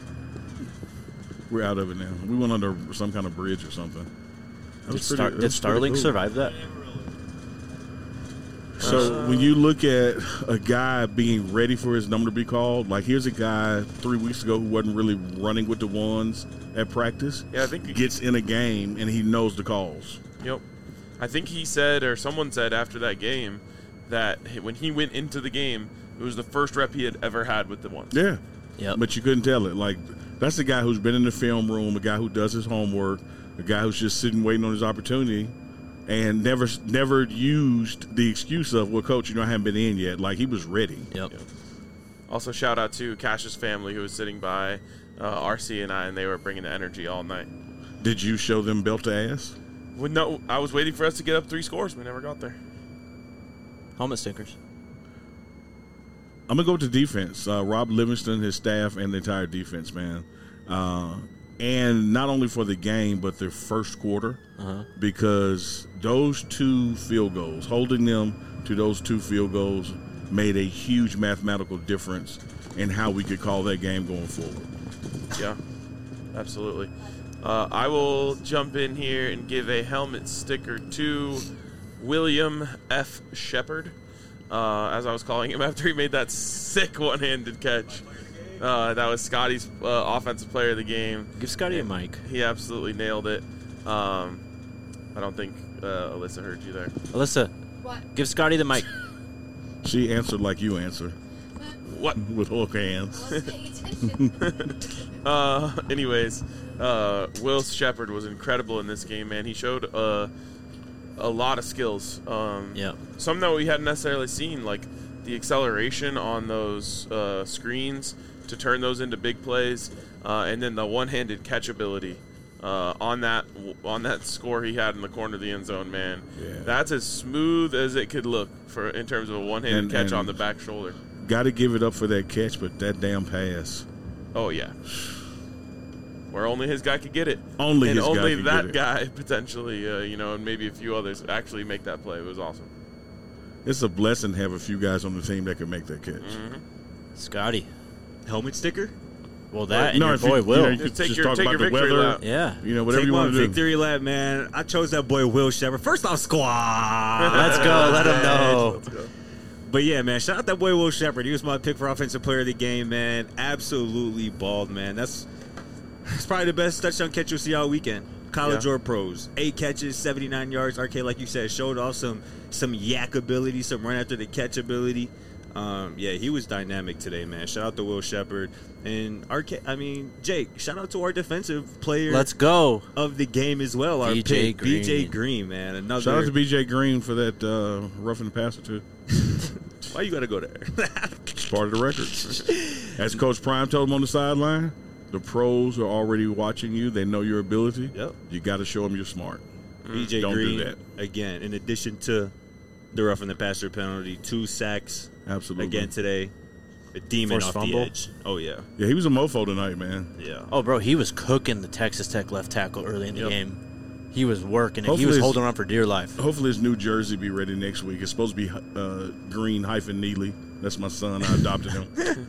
We're out of it now. We went under some kind of bridge or something. That Did, was Star- pretty- did that was pretty Starlink cool. survive that? So when you look at a guy being ready for his number to be called, like here's a guy three weeks ago who wasn't really running with the ones at practice. Yeah, I think he- gets in a game and he knows the calls. Yep. I think he said, or someone said after that game, that he- when he went into the game, it was the first rep he had ever had with the ones. Yeah. Yep. But you couldn't tell it. Like that's a guy who's been in the film room, a guy who does his homework, a guy who's just sitting waiting on his opportunity, and never never used the excuse of, well, coach, you know, I haven't been in yet. Like he was ready. Yep. Yep. Also, shout out to Cash's family who was sitting by uh, R C and I, and they were bringing the energy all night. Did you show them belt to ass? Well, no, I was waiting for us to get up three scores. We never got there. Helmet stickers. I'm gonna go with the defense. Uh, Rob Livingston, his staff, and the entire defense, man. Uh, and not only for the game, but their first quarter, Uh-huh. because those two field goals, holding them to those two field goals, made a huge mathematical difference in how we could call that game going forward. Yeah, absolutely. Uh, I will jump in here and give a helmet sticker to William F. Shepard, uh, as I was calling him after he made that sick one-handed catch. Uh, that was Scotty's uh, offensive player of the game. Give Scotty a mic. He absolutely nailed it. Um, I don't think uh, Alyssa heard you there. Alyssa, What? give Scotty the mic. She answered like you answer. Uh, What? with hook hands. Uh, anyways, uh, Will Shepard was incredible in this game, man. He showed uh, a lot of skills. Um, Yep. Some that we hadn't necessarily seen, like the acceleration on those uh, screens to turn those into big plays, uh, and then the one-handed catch ability uh, on that on that score he had in the corner of the end zone. Man, Yeah. that's as smooth as it could look for in terms of a one-handed And- catch and- on the back shoulder. Got to give it up for that catch, but that damn pass. Oh yeah, where only his guy could get it. Only and his guy only could that get it. guy potentially, uh, you know, and maybe a few others actually make that play. It was awesome. It's a blessing to have a few guys on the team that can make that catch. Mm-hmm. Scotty. Helmet sticker? Well, that and no, your if boy you, Will. You know, you Just could take just your- talk take about your the victory weather. lap. yeah. You know, whatever Take you my want to do. victory lap, man. I chose that boy Will Shepard. First off, squad. Let's go. Let him know. Let's go. But yeah, man, shout out that boy Will Shepard. He was my pick for offensive player of the game, man. Absolutely balled, man. That's that's probably the best touchdown catch you'll see all weekend. College Yeah. or pros. Eight catches, seventy-nine yards. R K, like you said, showed off some some yak ability, some run after the catch ability. Um, yeah, he was dynamic today, man. Shout out to Will Shepard. And R K, I mean, Jake, shout out to our defensive player Let's go. of the game as well. Our B J pick, B J Green. Green, man. Another. Shout out to B J Green for that uh, roughing the passer, too. Why you got to go there? It's part of the record. As Coach Prime told him on the sideline, the pros are already watching you. They know your ability. Yep. You got to show them you're smart. B J Don't do Green, that. again, in addition to the roughing the passer penalty, two sacks Absolutely. again today. A demon Forced off fumble. the edge. Oh, yeah. Yeah, he was a mofo tonight, man. Yeah. Oh, bro, he was cooking the Texas Tech left tackle early in the Yep. game. He was working it. He Hopefully was it's- holding on for dear life. Hopefully his New Jersey be ready next week. It's supposed to be uh, Green hyphen Neely. That's my son. I adopted him.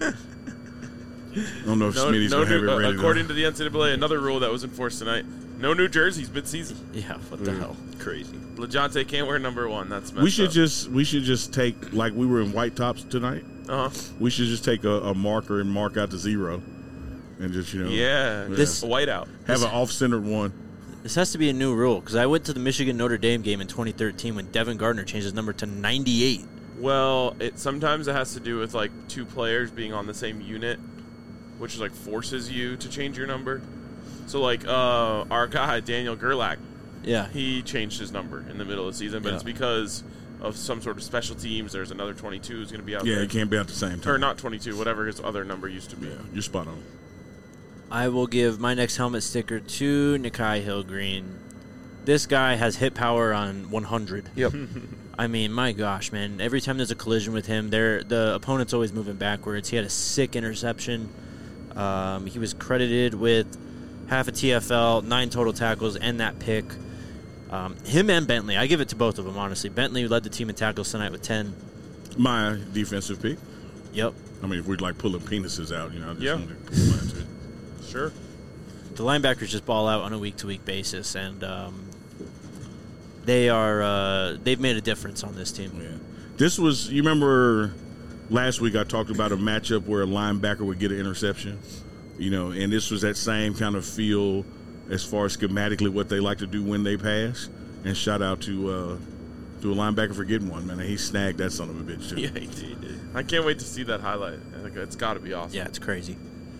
I don't know if No, Smitty's no going to have new, it uh, ready. according though. to the N C double A, another rule that was enforced tonight: no New Jerseys mid-season. Yeah, what the hell? Crazy. LeJonte can't wear number one. That's messed we should up. just we should just take, like we were in white tops tonight, Uh-huh. we should just take a, a marker and mark out the zero and just, you know, Yeah, This- a whiteout. have an off-centered one. This has to be a new rule because I went to the Michigan Notre Dame game in twenty thirteen when Devin Gardner changed his number to ninety-eight. Well, it sometimes it has to do with like two players being on the same unit, which is like forces you to change your number. So like uh, our guy Daniel Gerlach, Yeah. he changed his number in the middle of the season, but Yeah. it's because of some sort of special teams. There's another twenty-two who's going to be out Yeah, there, it can't be at the same time. or not twenty-two, whatever his other number used to be. Yeah, you're spot on. I will give my next helmet sticker to Nikai Hillgreen. This guy has hit power on one hundred. Yep. I mean, my gosh, man. Every time there's a collision with him, there the opponent's always moving backwards. He had a sick interception. Um, he was credited with half a T F L, nine total tackles, and that pick. Um, him and Bentley. I give it to both of them, honestly. Bentley led the team in tackles tonight with ten. My defensive pick. Yep. I mean, if we'd like pulling penises out, you know, I just Yeah. wanted to pull mine to it. Sure. The linebackers just ball out on a week-to-week basis, and um, they are uh, they've made a difference on this team. Yeah. This was, you remember last week I talked about a matchup where a linebacker would get an interception, you know, and this was that same kind of feel as far as schematically what they like to do when they pass. And shout out to uh, to a linebacker for getting one, man. He snagged that son of a bitch, too. Yeah, he did. I can't wait to see that highlight. I think it's got to be awesome. Yeah, it's crazy.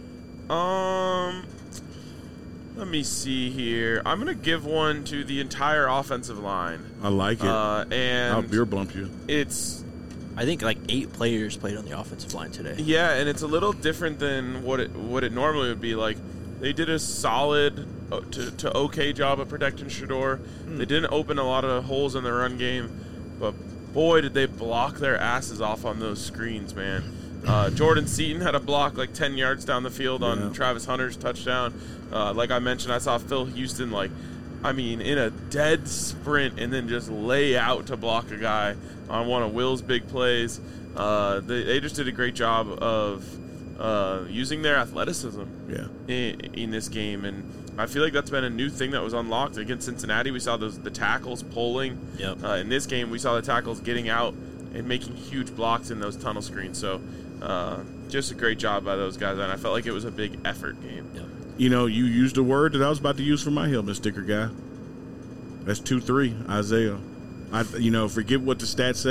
Um, let me see here. I'm gonna give one to the entire offensive line. I like it. Uh, I'll and beer bump you. it's I think like eight players played on the offensive line today. yeah, and it's a little different than what it what it normally would be. Like they did a solid uh, to, to okay job of protecting Shador. They didn't open a lot of holes in the run game, but boy did they block their asses off on those screens, man. Uh, Jordan Seaton had a block like ten yards down the field on Yeah. Travis Hunter's touchdown. Uh, like I mentioned, I saw Phil Houston, like, I mean, in a dead sprint and then just lay out to block a guy on one of Will's big plays. Uh, they, they just did a great job of uh, using their athleticism Yeah. in, in this game. And I feel like that's been a new thing that was unlocked. Against Cincinnati, we saw those the tackles pulling. Yep. Uh, in this game, we saw the tackles getting out and making huge blocks in those tunnel screens. So uh, just a great job by those guys. And I felt like it was a big effort game. Yep. You know, you used a word that I was about to use for my helmet sticker guy. That's two three, Isaiah. I, you know, forget what the stats say.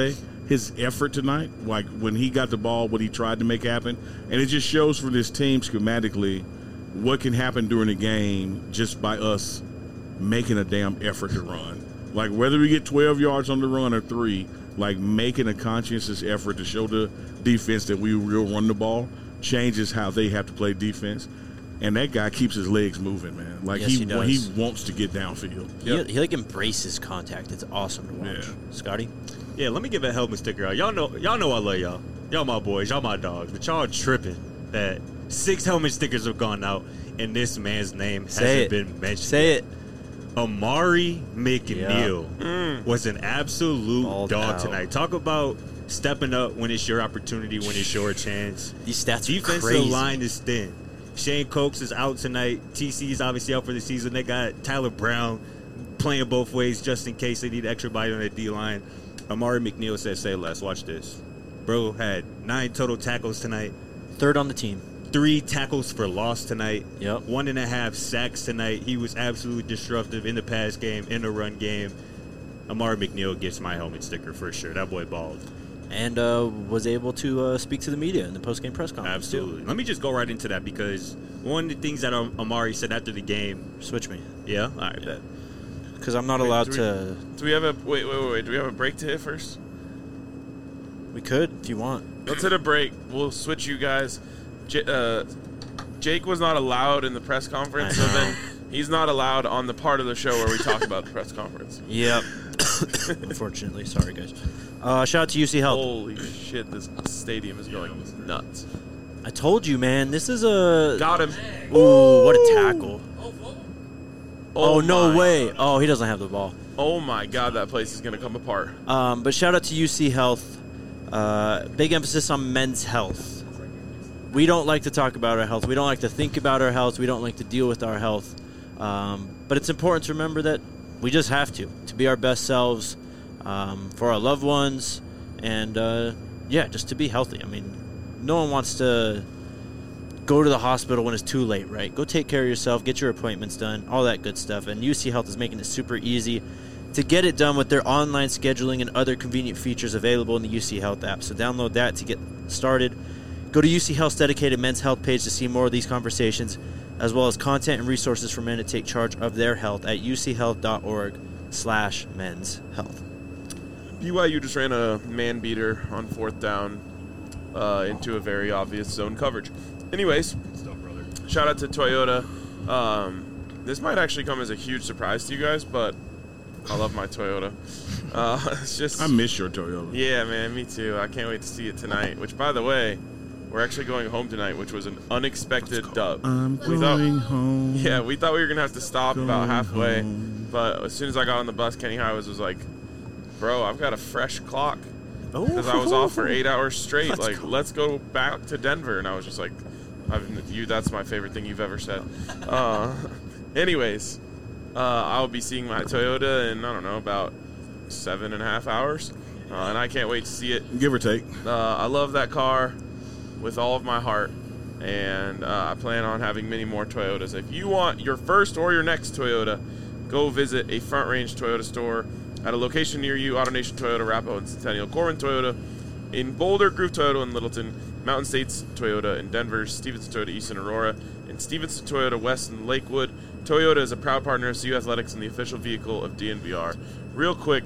his effort tonight, like when he got the ball, what he tried to make happen. And it just shows for this team schematically what can happen during a game just by us making a damn effort to run. Like whether we get twelve yards on the run or three, like making a conscientious effort to show the defense that we will run the ball changes how they have to play defense. And that guy keeps his legs moving, man. Like Yes, he he does. he wants to get downfield. He, he like embraces contact. It's awesome to watch. Yeah. Scotty? Yeah, let me give a helmet sticker out. Y'all know, y'all know I love y'all. Y'all my boys, y'all my dogs. But y'all tripping that six helmet stickers have gone out and this man's name Say hasn't it. been mentioned. Say yet. it. Amari McNeil Mm. was an absolute Balled dog out. tonight. Talk about stepping up when it's your opportunity, when it's your chance. These stats are Defensive crazy. line is thin. Shane Cokes is out tonight. T C is obviously out for the season. They got Tyler Brown playing both ways just in case they need extra body on the D line. Amari McNeil said, "Say less." Watch this. Bro had nine total tackles tonight. Third on the team. Three tackles for loss tonight. Yep. One and a half sacks tonight. He was absolutely disruptive in the pass game, in the run game. Amari McNeil gets my helmet sticker for sure. That boy balled. And uh, was able to uh, speak to the media in the post-game press conference, Absolutely. Let me just go right into that because one of the things that um, Amari said after the game. too. Switch me. Yeah? All right, bet. Because I'm not Wait, allowed do we- to... Do we have a wait, wait, wait, wait? Do we have a break to hit first? We could, if you want. Let's hit a break. We'll switch you guys. J- uh, Jake was not allowed in the press conference, so I know. then he's not allowed on the part of the show where we talk about the press conference. Yep. Unfortunately. Sorry, guys. Uh, shout out to U C Health. Holy shit, this stadium is going nuts. I told you, man. This is a... Got him. Ooh, what a tackle. Oh, no my- way. Oh, he doesn't have the ball. Oh my god, that place is going to come apart. Um, but shout out to U C Health. Uh, big emphasis on men's health. We don't like to talk about our health. We don't like to think about our health. We don't like to deal with our health. Um, but it's important to remember that we just have to, to be our best selves um, for our loved ones. And, uh, yeah, just to be healthy. I mean, no one wants to go to the hospital when it's too late, right? Go take care of yourself, get your appointments done, all that good stuff. And U C Health is making it super easy to get it done with their online scheduling and other convenient features available in the U C Health app. So download that to get started. Go to U C Health's dedicated men's health page to see more of these conversations, as well as content and resources for men to take charge of their health at uchealth.org slash men's health. B Y U just ran a man beater on fourth down uh, into a very obvious zone coverage. Anyways, shout out to Toyota. Um, this might actually come as a huge surprise to you guys, but I love my Toyota. Uh, it's just I miss your Toyota. yeah, man, me too. I can't wait to see it tonight. Which, by the way, we're actually going home tonight, which was an unexpected dub. I'm We thought- going home. Yeah, we thought we were gonna have to stop about Going halfway, home. but as soon as I got on the bus, Kenny Highways was like, "Bro, I've got a fresh clock because I was off for eight hours straight. Let's like, go. let's go back to Denver." And I was just like, I've, "You, that's my favorite thing you've ever said." Uh, anyways, uh, I'll be seeing my Toyota in I don't know about seven and a half hours, uh, and I can't wait to see it. Give or take. Uh, I love that car with all of my heart, and uh, I plan on having many more Toyotas. If you want your first or your next Toyota, go visit a Front Range Toyota store at a location near you. AutoNation Toyota, Arapahoe and Centennial, Corwin Toyota in Boulder, Groove Toyota in Littleton, Mountain States Toyota in Denver, Stevenson Toyota East in Aurora, and Stevenson Toyota West in Lakewood. Toyota is a proud partner of C U Athletics and the official vehicle of D N V R. Real quick,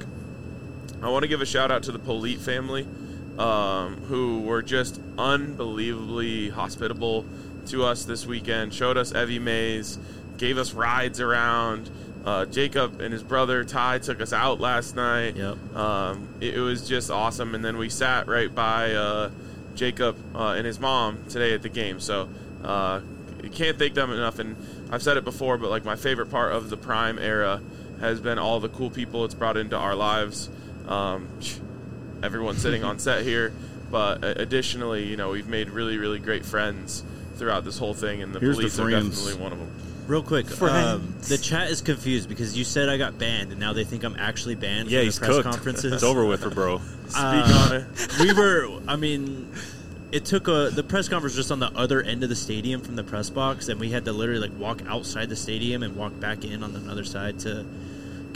I want to give a shout out to the Polite family, um, who were just unbelievably hospitable to us this weekend. Showed us Evie Mays, gave us rides around. Uh, Jacob and his brother Ty took us out last night. Yep. Um, it, it was just awesome. And then we sat right by uh, Jacob uh, and his mom today at the game. So uh, you can't thank them enough. And I've said it before, but like my favorite part of the Prime era has been all the cool people it's brought into our lives. Um, everyone sitting on set here, but uh, additionally, you know, we've made really, really great friends throughout this whole thing, and the Here's the police are friends. definitely one of them. Real quick, um, Friends. the chat is confused because you said I got banned, and now they think I'm actually banned Yeah, from he's the press cooked. conferences. It's over with for bro. Speak Uh, on it. we were, I mean, it took a the press conference just on the other end of the stadium from the press box, and we had to literally like walk outside the stadium and walk back in on the other side to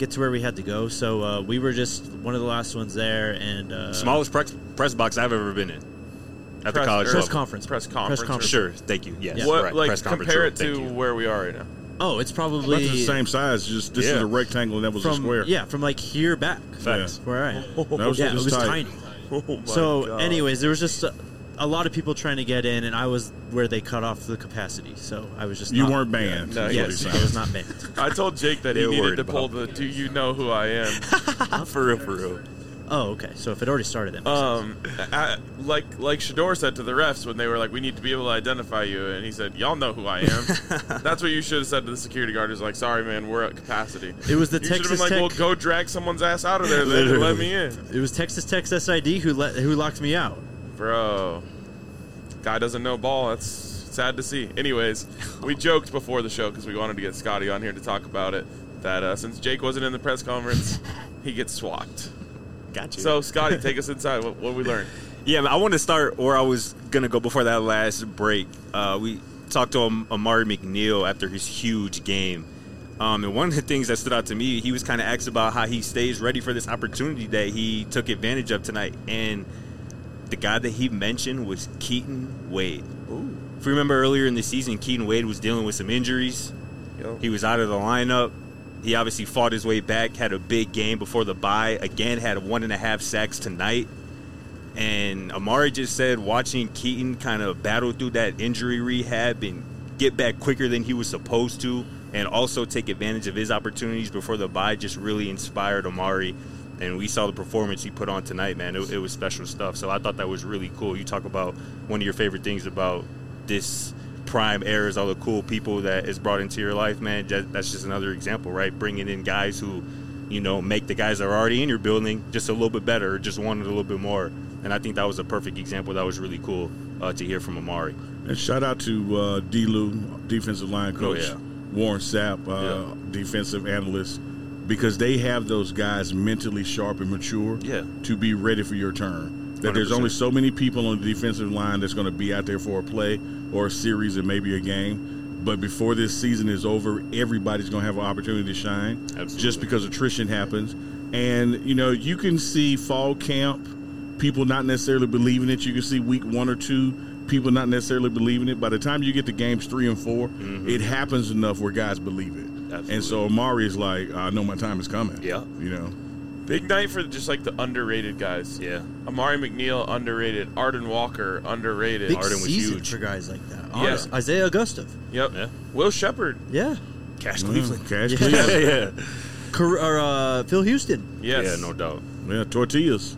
get to where we had to go. So uh, we were just one of the last ones there, and uh, Smallest press, press box I've ever been in at Press- the college or- press level. conference. Press conference. Press conference. Sure, thank you. Yes, What right. like press conference compare room, it thank to you. where we are right now? Oh, it's About probably the same size. Just this is Yeah. a rectangle and that was from a square. yeah, from like here back. Facts. Where I am. That was, Yeah, it it was was tight. tiny. Oh my So, God. anyways, there was just a, a lot of people trying to get in, and I was where they cut off the capacity. So I was just You not, weren't banned. No, is what Yes, he's I saying. was not banned. I told Jake that They he were needed worried to pull about- the "Do you know who I am?" for real, for real. Oh, okay. So if it already started, then Um, I, like like Shador said to the refs when they were like, "We need to be able to identify you," and he said, "Y'all know who I am." That's what you should have said to the security guard. Is like, "Sorry, man, we're at capacity." it was the You should have been Texas like, Tech. "Well, go drag someone's ass out of there, then and let me in." It was Texas Tech's S I D who let who locked me out. Bro, guy doesn't know ball. That's sad to see. Anyways, we joked before the show because we wanted to get Scotty on here to talk about it. That uh, since Jake wasn't in the press conference, he gets swapped. Gotcha. So, Scotty, take us inside. What, what we learned? Yeah, man, I want to start where I was going to go before that last break. Uh, we talked to Am- Amari McNeil after his huge game. Um, and one of the things that stood out to me, he was kind of asked about how he stays ready for this opportunity that he took advantage of tonight. And the guy that he mentioned was Keaton Wade. Ooh. If you remember earlier in the season, Keaton Wade was dealing with some injuries. Yo. He was out of the lineup. He obviously fought his way back, had a big game before the bye. Again, had one and a half sacks tonight. And Amari just said watching Keaton kind of battle through that injury rehab and get back quicker than he was supposed to, and also take advantage of his opportunities before the bye just really inspired Amari. And we saw the performance he put on tonight, man. It, it was special stuff. So I thought that was really cool. You talk about one of your favorite things about this prime era is all the cool people that is brought into your life, man. That, that's just another example, right? Bringing in guys who, you know, make the guys that are already in your building just a little bit better, or just wanted a little bit more. And I think that was a perfect example. That was really cool uh, to hear from Amari. And shout out to uh, D-Lou, defensive line coach, Oh, yeah. Warren Sapp, uh, Yeah. defensive analyst, because they have those guys mentally sharp and mature Yeah. to be ready for your turn. That one hundred there's percent. only so many people on the defensive line that's going to be out there for a play or a series and maybe a game. But before this season is over, everybody's going to have an opportunity to shine. Absolutely. Just because attrition happens. And, you know, you can see fall camp, people not necessarily believing it. You can see week one or two, people not necessarily believing it. By the time you get to games three and four, Mm-hmm. it happens enough where guys believe it. Absolutely. And so Amari is like, I know my time is coming. Yeah. You know. Big night for just like the underrated guys. Yeah. Amari McNeil, underrated. Arden Walker, underrated. Big Arden was season huge. for guys like that. Yeah. Honest. Isaiah Augustov. Yep. Yeah. Will Shepard. Yeah. Cash Mm, Cleveland. Cash Yeah. Cleveland. yeah. Car- or, uh, Phil Houston. Yes. Yeah, no doubt. Yeah, tortillas.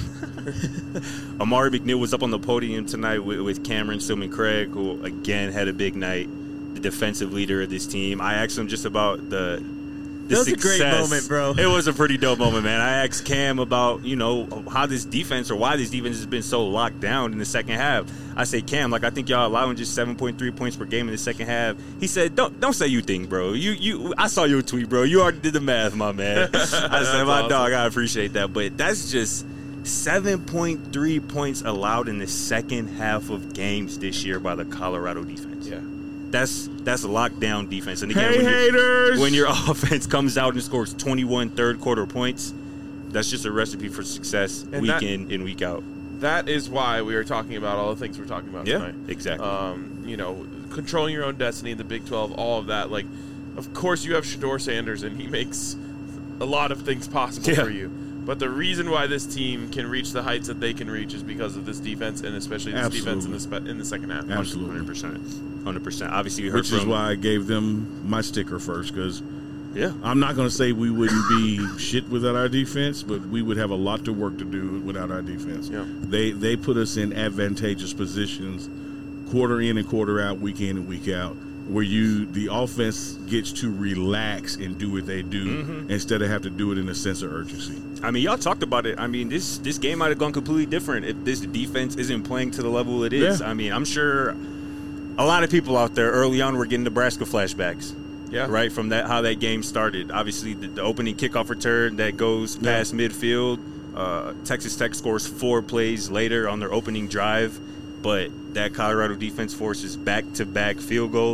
Amari McNeil was up on the podium tonight with, with Cameron Stillman Craig, who again had a big night, the defensive leader of this team. I asked him just about the, the That was a great success. moment, bro. It was a pretty dope moment, man. I asked Cam about, you know, how this defense or why this defense has been so locked down in the second half. I say, Cam, like I think y'all allowing just seven point three points per game in the second half. He said, don't don't say you think, bro. You you I saw your tweet, bro. You already did the math, my man. I said, my awesome. dog, I appreciate that. But that's just seven point three points allowed in the second half of games this year by the Colorado defense. Yeah. That's that's lockdown defense. And again, Hey, when, your- haters! when your offense comes out and scores twenty-one third quarter points, that's just a recipe for success And week that- in and week out. That is why we are talking about all the things we're talking about Yeah, tonight. exactly. Um, you know, controlling your own destiny, the Big twelve, all of that. Like, of course, you have Shador Sanders, and he makes a lot of things possible Yeah. for you. But the reason why this team can reach the heights that they can reach is because of this defense, and especially this defense in the, spe- in the second half. Absolutely. one hundred percent. one hundred percent. Obviously, you heard Which is from why I gave them my sticker first, because yeah. I'm not going to say we wouldn't be shit without our defense, but we would have a lot of work to do without our defense. Yeah. They they put us in advantageous positions, quarter in and quarter out, week in and week out, where you the offense gets to relax and do what they do Mm-hmm. instead of have to do it in a sense of urgency. I mean, y'all talked about it. I mean, this this game might have gone completely different if this defense isn't playing to the level it is. Yeah. I mean, I'm sure a lot of people out there early on were getting Nebraska flashbacks. Yeah. Right from that how that game started. Obviously, the, the opening kickoff return that goes Yeah. past midfield. Uh, Texas Tech scores four plays later on their opening drive, but that Colorado defense forces back-to-back field goals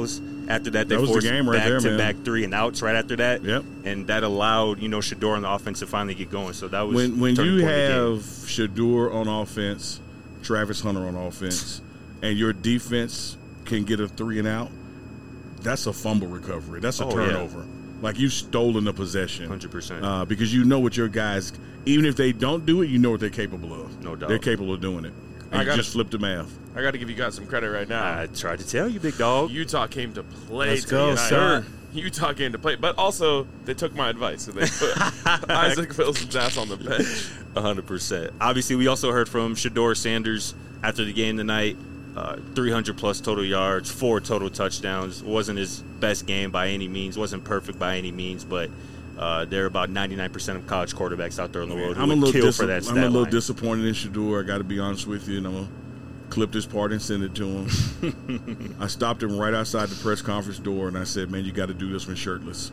After that, they That was the forced game right back there, to man. back three and outs right after that. Yep. And that allowed, you know, Shedeur on the offense to finally get going. So that was When when turning you point of the game. have Shedeur on offense, Travis Hunter on offense, and your defense can get a three and out, that's a fumble recovery. That's a Oh, yeah. turnover. Like you've stolen a possession. one hundred percent. Uh, because you know what your guys, even if they don't do it, you know what they're capable of. No doubt. They're capable of doing it. I And you gotta- just flip the math. I got to give you guys some credit right now. I tried to tell you, big dog. Utah came to play Let's go, tonight. sir. Utah came to play, but also they took my advice and they put Isaac Wilson's ass on the bench. one hundred percent. Obviously, we also heard from Shedeur Sanders after the game tonight. Uh, three hundred plus total yards, four total touchdowns. Wasn't his best game by any means. Wasn't perfect by any means, but uh, there are about ninety-nine percent of college quarterbacks out there in the world who I'm a would little kill dis- for that stat I'm a little line. disappointed in Shedeur. I got to be honest with you, and I'm gonna clip this part and send it to him. I stopped him right outside the press conference door, and I said, "Man, you got to do this one shirtless."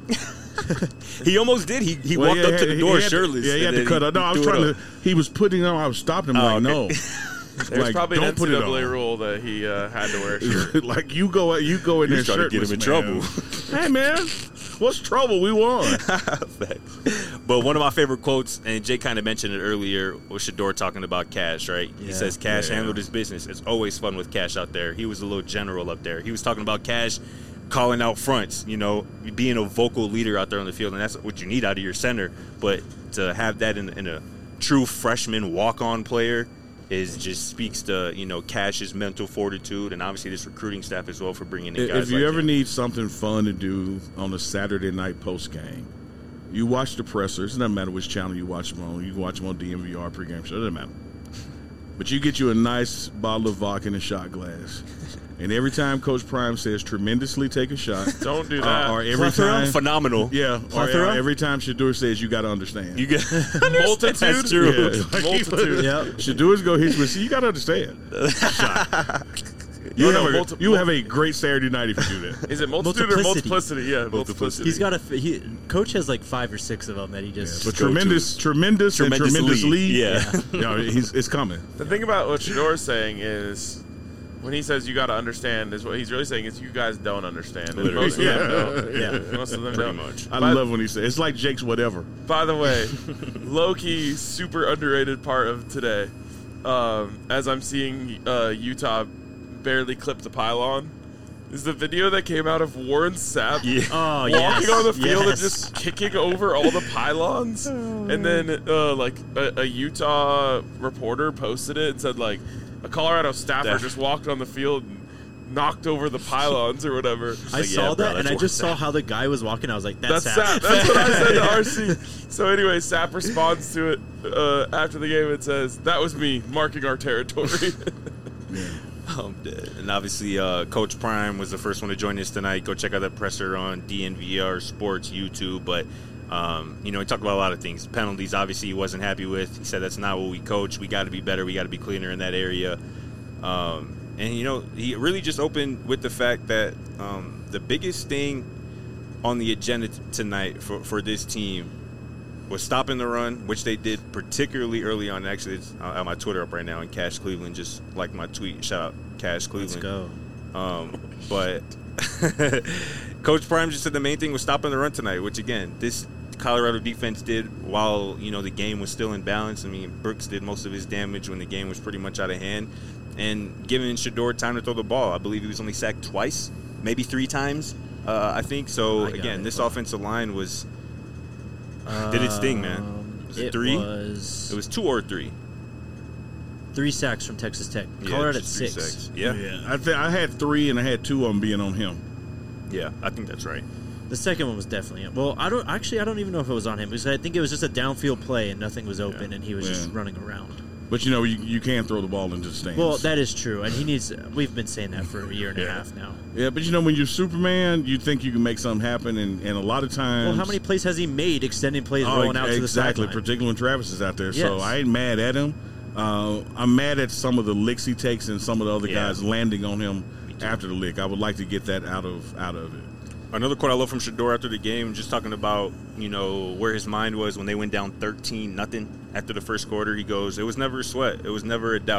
He almost did. He he Well, walked yeah, up to the he door had to- shirtless. Yeah, he had and to then cut up. No, I was threw it trying up. to. He was putting on. I was stopping him Oh, like, okay. no. There's Like, probably don't an put N it C double A on. rule that he uh, had to wear a shirt. Like you go, you go in He there was trying to get shirtless, him in man. trouble. Hey man, what's trouble? We won. Facts. But one of my favorite quotes, and Jay kind of mentioned it earlier, was Shedeur talking about Cash, right? He Yeah. says Cash Yeah. handled his business. It's always fun with Cash out there. He was a little general up there. He was talking about Cash calling out fronts, you know, being a vocal leader out there on the field, and that's what you need out of your center. But to have that in, in a true freshman walk-on player is just speaks to, you know, Cash's mental fortitude, and obviously this recruiting staff as well for bringing in guys If you like ever him. need something fun to do on a Saturday night post game, you watch the pressers. It doesn't matter which channel you watch them on. You can watch them on D M V R pregame show. It doesn't matter. But you get you a nice bottle of vodka in a shot glass, and every time Coach Prime says "tremendously take a shot," Don't do uh, that. or every Plethora? time, phenomenal. yeah, or, Plethora? or every time Shedeur says "you got to understand." You get Multitude? That's true. Yeah. Like, Multitude. Yep. Shadeur's go hit you with, see, you got to understand. Shot. You, No, no, have, a, multi- you have a great Saturday night if you do that. Is it multitude or Multiplicity. multiplicity? Yeah, multiplicity. He's got a he, coach has like five or six of them that he just. But go tremendous, to. tremendous, Tremendous and tremendous lead. lead. Yeah. You know, he's, it's coming. The thing about what Shadeur's saying is, when he says you got to understand, is what he's really saying is you guys don't understand. And Literally. most of them don't. Yeah. Most of them Pretty don't. much. I By- love when he says it's like Jake's whatever. By the way, low-key, super underrated part of today, um, as I'm seeing uh, Utah barely clip the pylon, is the video that came out of Warren Sapp Yeah. Oh walking yes. on the field and yes. just kicking over all the pylons. And then, uh, like, a, a Utah reporter posted it and said, like, a Colorado staffer Def- just walked on the field and knocked over the pylons or whatever. I Like, saw yeah, bro, that and that's I just Warren saw how the guy was walking. I was like, That's "That's, Sapp. Sapp." That's what I said to R C. So anyway, Sapp responds to it uh, after the game and says, "That was me marking our territory." I'm dead. And obviously, uh, Coach Prime was the first one to join us tonight. Go check out that presser on D N V R Sports YouTube. But, um, you know, he talked about a lot of things. Penalties, obviously, he wasn't happy with. He said that's not what we coach. We got to be better. We got to be cleaner in that area. Um, and, you know, he really just opened with the fact that um, the biggest thing on the agenda t- tonight for, for this team was stopping the run, which they did particularly early on. Actually, it's uh, on my Twitter up right now, and Cash Cleveland just liked my tweet. Shout out Cash Cleveland. Let's go. Um, but Coach Prime just said the main thing was stopping the run tonight, which again, this Colorado defense did while, you know, the game was still in balance. I mean, Brooks did most of his damage when the game was pretty much out of hand, and giving Shedeur time to throw the ball. I believe he was only sacked twice, maybe three times. Uh, I think so. I got Again, it. this offensive line was did its thing, man. Um, Was it it three? Was it was two or three. three sacks from Texas Tech. Yeah, Colorado at just three six. sacks. Yeah. yeah, Yeah, I th- I had three and I had two of them being on him. I think that's right. The second one was definitely well. I don't actually. I don't even know if it was on him because I think it was just a downfield play and nothing was open Yeah. and he was Yeah. just running around. But you know, you, you can throw the ball into the stands. Well, that is true, and he needs. We've been saying that for a year and a Yeah. half now. yeah, but you know, when you're Superman, you think you can make something happen, and, and a lot of times. Well, how many plays has he made extending plays Oh, rolling out to the exactly, sideline? particularly when Travis is out there. So Yes. I ain't mad at him. Uh, I'm mad at some of the licks he takes and some of the other Yeah. guys landing on him too. after the lick. I would like to get that out of out of it. Another quote I love from Shedeur after the game, just talking about, you know, where his mind was when they went down thirteen nothing after the first quarter. He goes, "It was never a sweat. It was never a doubt.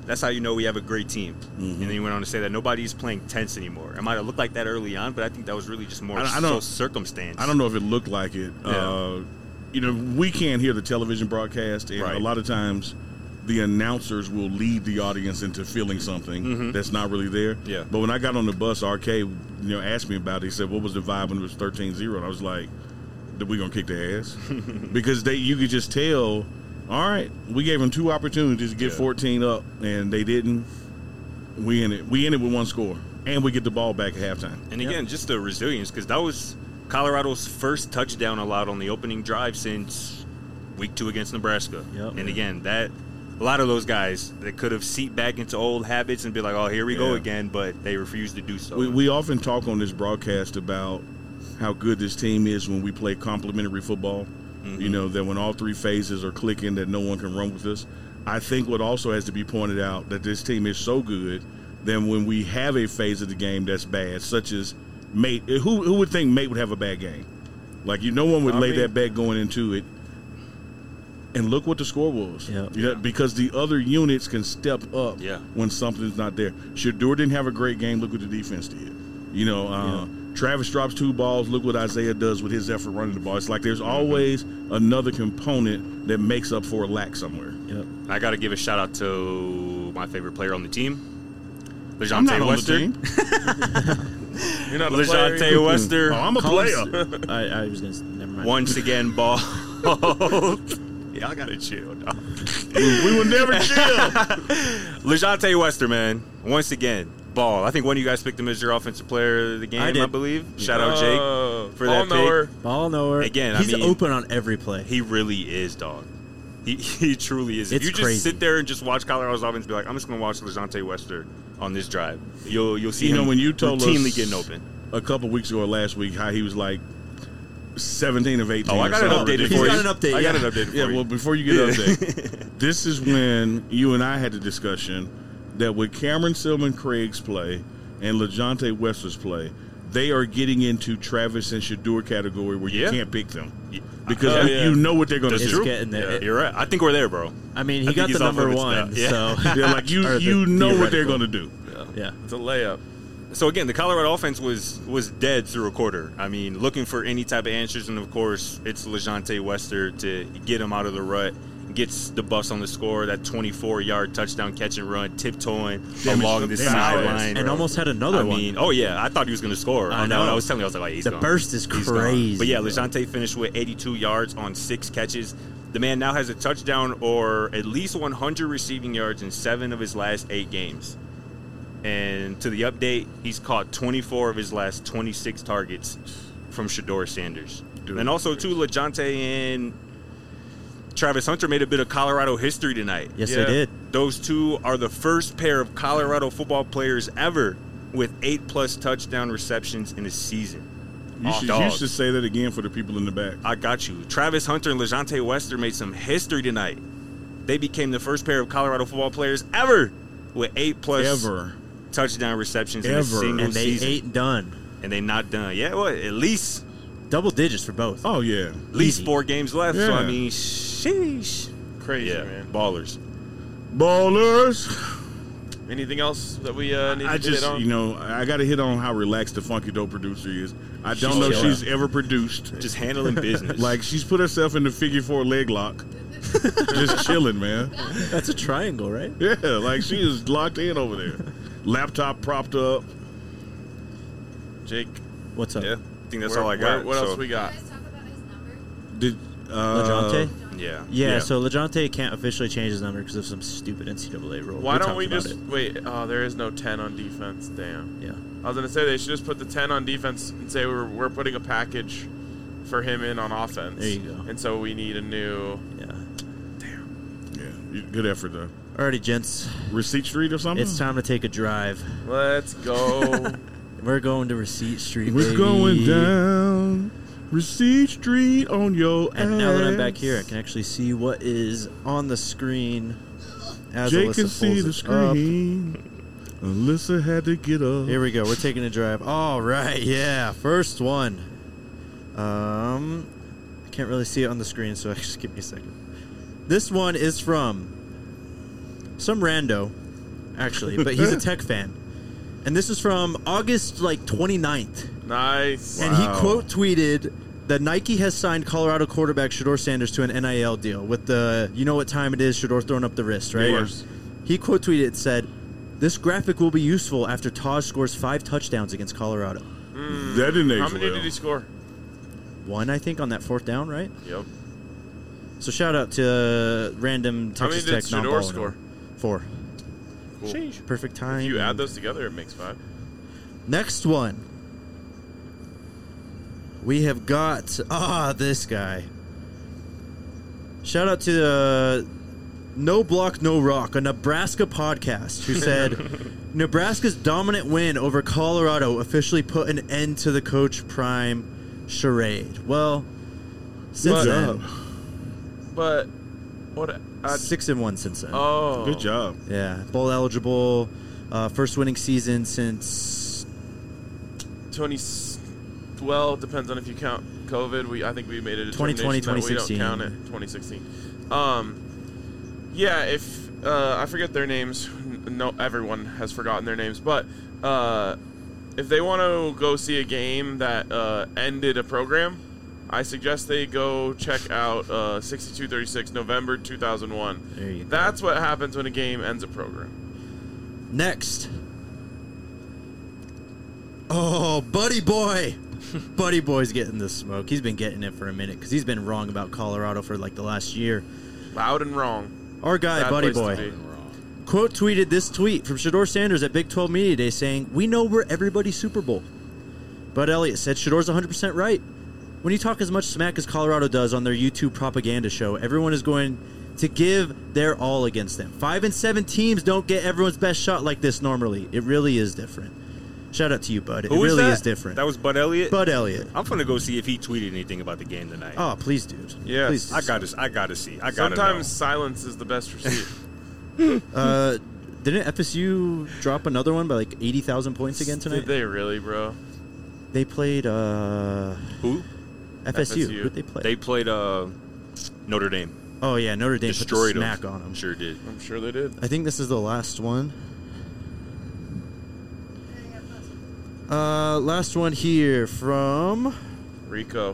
That's how you know we have a great team. Mm-hmm. And then he went on to say that nobody's playing tense anymore. It might have looked like that early on, but I think that was really just more I- I so don't- circumstance. I don't know if it looked like it. Yeah. Uh, you know, we can't hear the television broadcast, and Right. a lot of times the announcers will lead the audience into feeling something Mhm. that's not really there. Yeah. But when I got on the bus, R K, you know, asked me about it. He said, "What was the vibe when it was thirteen zero?" And I was like, "That we gonna kick their ass?" Because they, you could just tell. All right, we gave them two opportunities to get Yeah. fourteen up, and they didn't. We in it. We in it with one score, and we get the ball back at halftime. And again, just the resilience, because that was Colorado's first touchdown allowed on the opening drive since week two against Nebraska. Yep. And again, that a lot of those guys that could have seeped back into old habits and be like, "Oh, here we go Yeah. again," but they refused to do so. We, we often talk on this broadcast about how good this team is when we play complementary football. You know, that when all three phases are clicking, that no one can run with us. I think what also has to be pointed out that this team is so good that when we have a phase of the game that's bad, such as Mate, who who would think Mate would have a bad game? Like, you, no one would I lay mean- that bet going into it. And look what the score was. Yep. You know, because the other units can step up Yeah. when something's not there. Shador didn't have a great game. Look what the defense did. You know, uh, Travis drops two balls. Look what Isaiah does with his effort running the ball. It's like there's always another component that makes up for a lack somewhere. Yep. I got to give a shout out to my favorite player on the team, I'm not LeJontay on Wester. the team. You're not a player. LeJontay Wester. Oh, I'm a player. I, I was gonna. Never mind. Once again, ball. Y'all gotta chill, dog. We will never chill. LeJontay Wester, man. Once again, ball. I think one of you guys picked him as your offensive player of the game, I I, did. believe. Shout out Jake Oh, for ball that knower. pick. Ball nowhere. Again, I he's mean- open on every play. He really is, dog. He he truly is. If It's you just crazy. sit there and just watch Colorado's offense, be like, I'm just gonna watch LeJontay Wester on this drive. You'll you'll see You him know, when you told routinely us getting open. a couple weeks ago or last week how he was like seventeen of eighteen. Oh, I or got it something updated ridiculous. for He's you. got an update, I got yeah. it updated for Yeah, you. well, before you get the update, this is when you and I had the discussion that with Cameron Silman Craig's play and LeJontay Wester's play, they are getting into Travis and Shador category where you Yeah. can't pick them Yeah. because Oh, you- yeah. you know what they're going to That's It's do. true. getting there. Yeah, It- you're right. I think we're there, bro. I mean, I he think got he's the off number limits one. now. Yeah. So Yeah, like you, Or the you know what they're theoretical. going to do. yeah. It's a layup. So again, the Colorado offense was was dead through a quarter. I mean, looking for any type of answers, and of course, it's LeJontay Wester to get him out of the rut. Gets the bus on the score, that twenty-four yard touchdown catch and run, tiptoeing Damn, along it's- the damn, sideline. And almost had another I one. mean, oh yeah, I thought he was going to score. I on that one. know. I was telling you, I was like, oh, he's The gone. burst is He's gone. crazy, But yeah, bro. LeJontay finished with eighty-two yards on six catches. The man now has a touchdown or at least one hundred receiving yards in seven of his last eight games. And to the update, he's caught twenty-four of his last twenty-six targets from Shador Sanders. Dude. And also, too, LeJontay and Travis Hunter made a bit of Colorado history tonight. Yes, Yeah. they did. Those two are the first pair of Colorado football players ever with eight-plus touchdown receptions in a season. You Oh, should, you dogs. should say that again for the people in the back. I got you. Travis Hunter and LeJontay Wester made some history tonight. They became the first pair of Colorado football players ever with eight-plus Ever. touchdown receptions in a Ever. single And they season. ain't done. And they not done. Yeah, well, at least Double digits for both. Oh, yeah. at least Easy. four games left. So, Yeah. I mean, sheesh. Crazy, Yeah, man. ballers. Ballers. Anything else that we uh, need I to just, hit on? you know, I got to hit on how relaxed the Funky Dope producer is. I don't She's know if chilling. she's ever produced. Just handling business. Like, she's put herself in the figure four leg lock. Just chilling, man. That's a triangle, right? Yeah, like she is locked in over there. Laptop propped up. Jake, What's up? yeah, I think that's where- all I where- got. what so, else we got? Guys, talk about his number. Did uh, LeJontay? Yeah. Yeah, so LeJontay can't officially change his number because of some stupid N C double A rule. Why don't talked we about just it. wait? Oh, there is no ten on defense. Damn. Yeah. I was gonna say they should just put the ten on defense and say we're we're putting a package for him in on offense. There you go. And so we need a new. Yeah. Yeah, you- good effort though. Alrighty, gents. Receipt Street or something? It's time to take a drive. Let's go. We're going to Receipt Street, We're baby. going down Receipt Street on your And now that I'm back ass. here, I can actually see what is on the screen. As Jake Alyssa can see pulls the it up. screen. Alyssa had to get up. Here we go. We're taking a drive. All right, yeah. First one. Um, I can't really see it on the screen, so just give me a second. This one is from some rando actually, but he's a Tech fan. And this is from August like twenty-ninth. Nice. And he Wow. quote tweeted that Nike has signed Colorado quarterback Shedeur Sanders to an N I L deal with the, you know what time it is, Shedeur throwing up the wrist, right? Yes. He quote tweeted and said, "This graphic will be useful after Taj scores five touchdowns against Colorado." That didn't age How many well. did he score? One, I think, on that fourth down, right? Yep. So shout out to random How many Texas did Tech Shedeur non-ball score? owner. Four. Cool. Perfect time. If you add those together, it makes five. Next one. We have got ah this guy. Shout out to the No Block No Rock, a Nebraska podcast, who said Nebraska's dominant win over Colorado officially put an end to the Coach Prime charade. Well, since But- then, But what? I, six and one since then. oh, Good job. Yeah, bowl eligible, uh, first winning season since twenty. Well, depends on if you count COVID. We I think we made a twenty twenty, determination that we don't count twenty sixteen. it. twenty sixteen. Um, yeah. If uh, I forget their names, no, everyone has forgotten their names. But uh, if they want to go see a game that uh, ended a program, I suggest they go check out uh, sixty-two thirty-six, November two thousand one. There you go. That's what happens when a game ends a program. Next. Oh, Buddy Boy. Buddy Boy's getting the smoke. He's been getting it for a minute because he's been wrong about Colorado for like the last year. Loud and wrong. Our guy, Bad Buddy place Boy, to be. quote tweeted this tweet from Shedeur Sanders at Big twelve Media Day saying, "We know we're everybody's Super Bowl." Bud Elliott said Shedor's one hundred percent right. When you talk as much smack as Colorado does on their YouTube propaganda show, everyone is going to give their all against them. Five and seven teams don't get everyone's best shot like this normally. It really is different. Shout out to you, Bud. It Who was really that? is different. That was Bud Elliott. Bud Elliott. I'm gonna go see if he tweeted anything about the game tonight. Oh, please, dude. Yes. Please. I gotta, I gotta see. I gotta Sometimes silence is the best receipt. Uh, didn't F S U drop another one by like eighty thousand points again tonight? Did they really, bro? They played uh, know. Who? F S U. F S U. Who'd they play? They played uh, Notre Dame. oh, yeah, Notre Dame Destroyed put the them. smack on them. Sure did. I'm sure they did. I think this is the last one. Uh, last one here from Rico.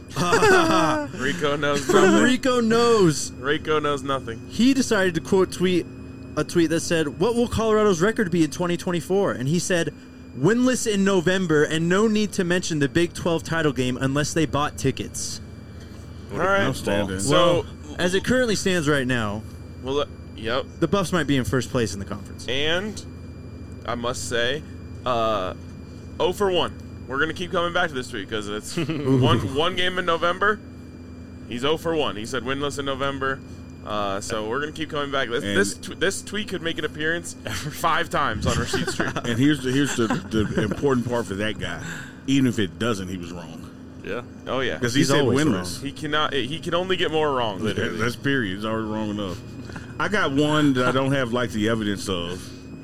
Rico knows from nothing. Rico Knows. Rico knows nothing. He decided to quote tweet a tweet that said, "What will Colorado's record be in twenty twenty-four?" And he said, "Winless in November, and no need to mention the Big twelve title game unless they bought tickets." All right. Outstanding. So, Well, as it currently stands right now, well, uh, yep. the Buffs might be in first place in the conference. And I must say, uh, oh for one. We're gonna keep coming back to this tweet because it's one one game in November. He's oh for one. He said winless in November. Uh, so we're gonna keep coming back. This And- this, tw- this tweet could make an appearance five times on Receipt Street. And here's the here's the, the important part for that guy. Even if it doesn't, he was wrong Yeah. Oh yeah, because he He's said always winless. he cannot. He can only get more wrong. Literally. That's period. It's already wrong enough. I got one that I don't have like the evidence of.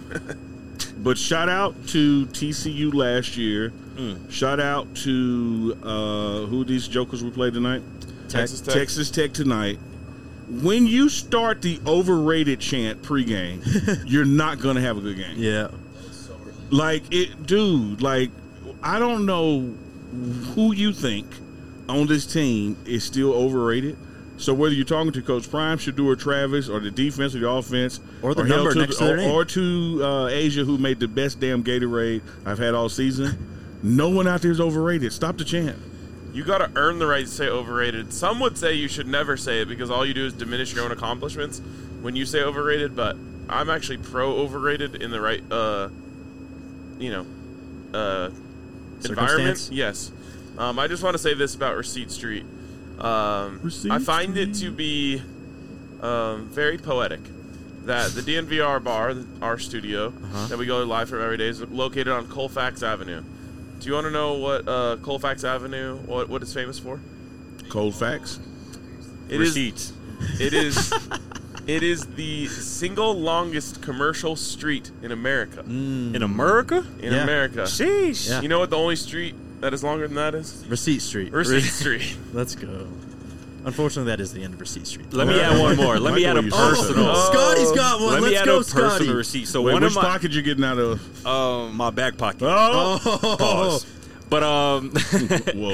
But shout out to T C U last year. Shout out to uh, who these jokers we played tonight? Texas Tech. Texas Tech tonight. When you start the overrated chant pregame, you're not going to have a good game. Yeah. Like it, dude. Like I don't know who you think on this team is still overrated. So whether you're talking to Coach Prime, Shedeur Travis, or the defense or the offense, Or the hell number to next the, to their or, name. or to uh, Asia, who made the best damn Gatorade I've had all season. No one out there is overrated. Stop the chant. You got to earn the right to say overrated. Some would say you should never say it because all you do is diminish your own accomplishments when you say overrated. But I'm actually pro overrated in the right, uh, you know, uh, environment. Circumstance? Yes. Um, I just want to say this about Receipt Street. Um, Receipt I find it to be um, very poetic that the D N V R bar, our studio Uh-huh. that we go live from every day, is located on Colfax Avenue. Do you want to know what uh, Colfax Avenue, what, what it's famous for? Cold facts. It is. Receipts. It is. It is the single longest commercial street in America. In America? In Yeah. America. Sheesh. Yeah. You know what the only street that is longer than that is? Receipt Street. Receipt Street. Let's go. Unfortunately, that is the end of Receipt Street. Let me add one more. Let me add a Like the way you said personal. that. Scotty's got one. Let Let's me add go, a Scotty. personal receipt. So Wait, one which of my pocket you getting out of? um my back pocket. Oh, Oh, Pause. But um, whoa.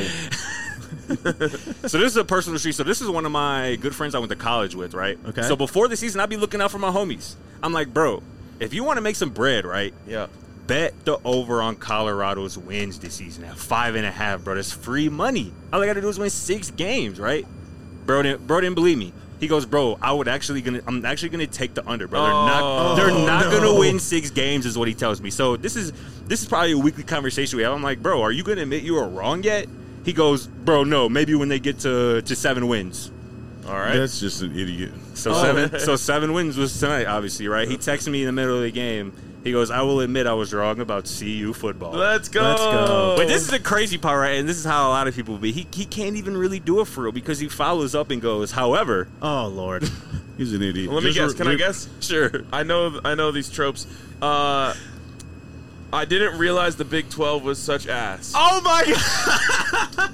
so this is a personal receipt. So this is one of my good friends I went to college with, right? Okay. So before the season, I'd be looking out for my homies. I'm like, bro, if you want to make some bread, right? Yeah. Bet the over on Colorado's wins this season at five and a half, bro. That's free money. All I got to do is win six games, right? Bro didn't, bro didn't believe me. He goes, bro, I would actually gonna, I'm actually gonna take the under, bro. They're not, Oh, they're not no. gonna win six games, is what he tells me. So this is, this is probably a weekly conversation we have. I'm like, bro, are you gonna admit you were wrong yet? He goes, bro, no, maybe when they get to to seven wins. All right. That's just an idiot. So Oh. seven, so seven wins was tonight, obviously, right? He texted me in the middle of the game. He goes, I will admit I was wrong about C U football. Let's go. Let's go. But this is the crazy part, right? And this is how a lot of people be. He he can't even really do it for real because he follows up and goes, however, Oh, Lord. He's an idiot. Let me Just guess. re- Can I re- guess? sure. I know. I know these tropes. Uh, I didn't realize the Big twelve was such ass. Oh my god.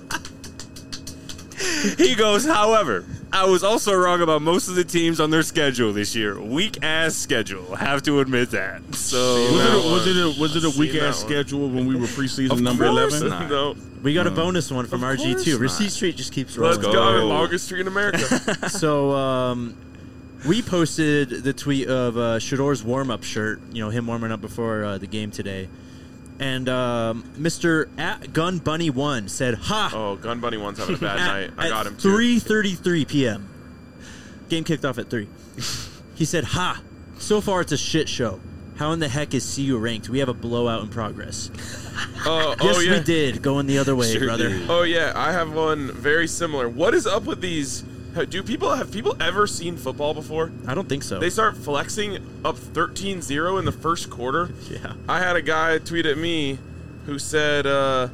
He goes, however, I was also wrong about most of the teams on their schedule this year. Weak ass schedule. Have to admit that. So Was it, that a, one. was it a was it a I've weak seen ass that one. schedule when we were preseason Of number course eleven? not. No. We got a bonus one from Of R G course too. not. Receipt Street just keeps Let's rolling. go. I'm go. in Longest Street in America. So, um, we posted the tweet of uh, Shador's warm-up shirt, you know, him warming up before uh, the game today. And um, Mister at Gun Bunny one said, "Ha!" Oh, Gun Bunny one's having a bad at, night. I at got him too. three thirty-three p.m. Game kicked off at three. He said, "Ha! So far it's a shit show. How in the heck is C U ranked? We have a blowout in progress." Oh, Yes, oh yeah. we did. Going the other way, Sure brother. did. Oh yeah. I have one very similar. What is up with these? Do people have people ever seen football before? I don't think so. They start flexing up thirteen zero in the first quarter. yeah. I had a guy tweet at me who said, uh,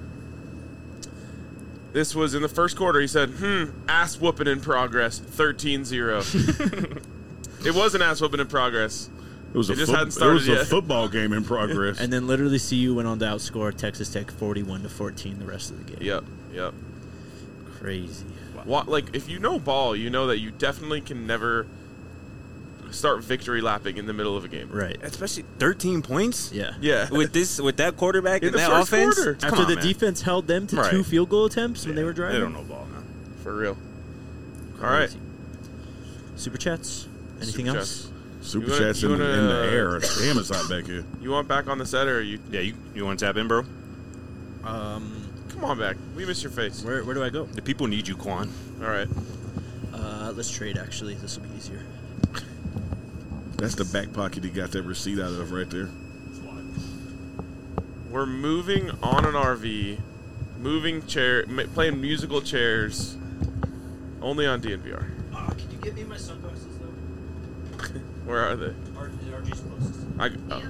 this was in the first quarter. He said, hmm, ass whooping in progress, thirteen zero. It was an ass whooping in progress. It was, a, It just foot- hadn't it was started a yet. football game in progress. And then literally C U went on to outscore Texas Tech forty-one to fourteen the rest of the game. Yep, yep. Crazy. What, like, if you know ball, you know that you definitely can never start victory lapping in the middle of a game. Right. Especially thirteen points? Yeah. Yeah. With this with that quarterback In and the that first offense? quarter. Come After on, the man. defense held them to Right. two field goal attempts when they were Yeah, driving. They don't know ball, man. For real. All right. Crazy. Super chats. Anything Super else? chats. Super You wanna- chats you in, the, wanna, in the uh, air. Damn, it's hot back here. You want back on the set, or you? Yeah, you you want to tap in, bro? Um, Come on back. We miss your face. where where do I go? The people need you, Quan. All right. Uh, let's trade. Actually, this will be easier. That's the back pocket he got that receipt out of right there. We're moving on an R V, moving chair, ma- playing musical chairs, only on D N V R. Uh, can you get me my sunglasses though? Where are they? R G's closest. I, oh,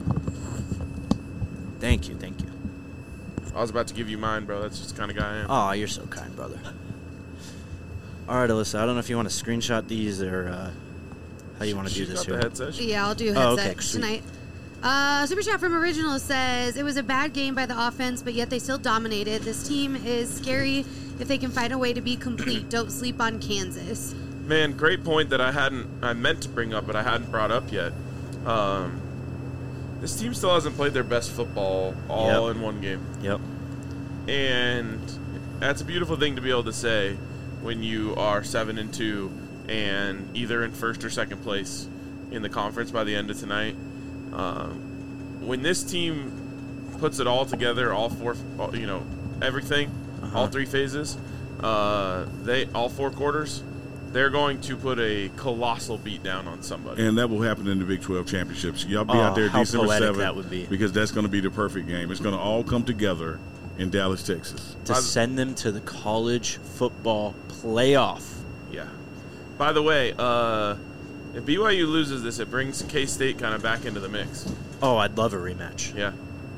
Thank you, thank you. I was about to give you mine, bro. That's just the kind of guy I am. Oh, you're so kind, brother. All right, Alyssa, I don't know if you want to screenshot these or uh, how you want to do She's this got here. the headset. Yeah, I'll do Oh, headset okay, sweet. tonight. Uh, Super Chat from Original says, it was a bad game by the offense, but yet they still dominated. This team is scary if they can find a way to be complete. Don't sleep on Kansas. Man, great point that I hadn't, I meant to bring up, but I hadn't brought up yet. Um, this team still hasn't played their best football all Yep. in one game. Yep. And that's a beautiful thing to be able to say when you are seven and two and either in first or second place in the conference by the end of tonight. Um, when this team puts it all together, all four, all- you know, everything, Uh-huh. all three phases, uh, they all four quarters, they're going to put a colossal beat down on somebody. And that will happen in the Big twelve championships. Y'all be Oh, out there how December poetic seventh that would be. because that's going to be the perfect game. It's going to all come together in Dallas, Texas. To By the- send them to the college football playoff. Yeah. By the way, uh, if B Y U loses this, it brings K-State kind of back into the mix. Oh, I'd love a rematch. Yeah.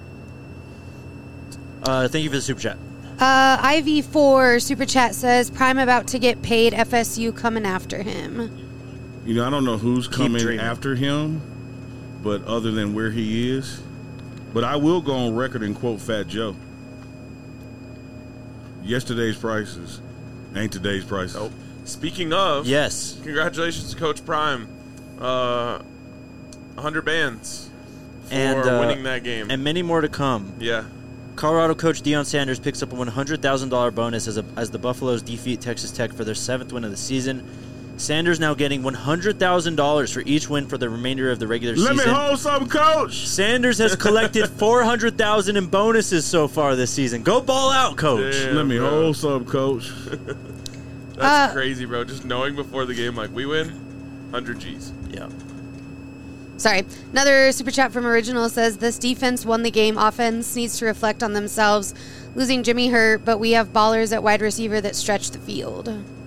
Uh, thank you for the super chat. Uh, I V four Super Chat says, Prime about to get paid, F S U coming after him. You know, I don't know who's coming dreaming. after him, but other than where he is, but I will go on record and quote Fat Joe. Yesterday's prices ain't today's prices. Nope. Speaking of, Yes. congratulations to Coach Prime. Uh, one hundred bands for And, uh, winning that game. And many more to come. yeah. Colorado coach Deion Sanders picks up a one hundred thousand dollars bonus as, a, as the Buffaloes defeat Texas Tech for their seventh win of the season. Sanders now getting one hundred thousand dollars for each win for the remainder of the regular Let season. me hold something, coach. Sanders has collected four hundred thousand dollars in bonuses so far this season. Go ball out, coach. Damn, Let me bro. hold something, coach. That's Uh, crazy, bro. Just knowing before the game, like, we win, one hundred G's. Yeah. Sorry. Another super chat from Original says this defense won the game. Offense needs to reflect on themselves. Losing Jimmy hurt, but we have ballers at wide receiver that stretch the field.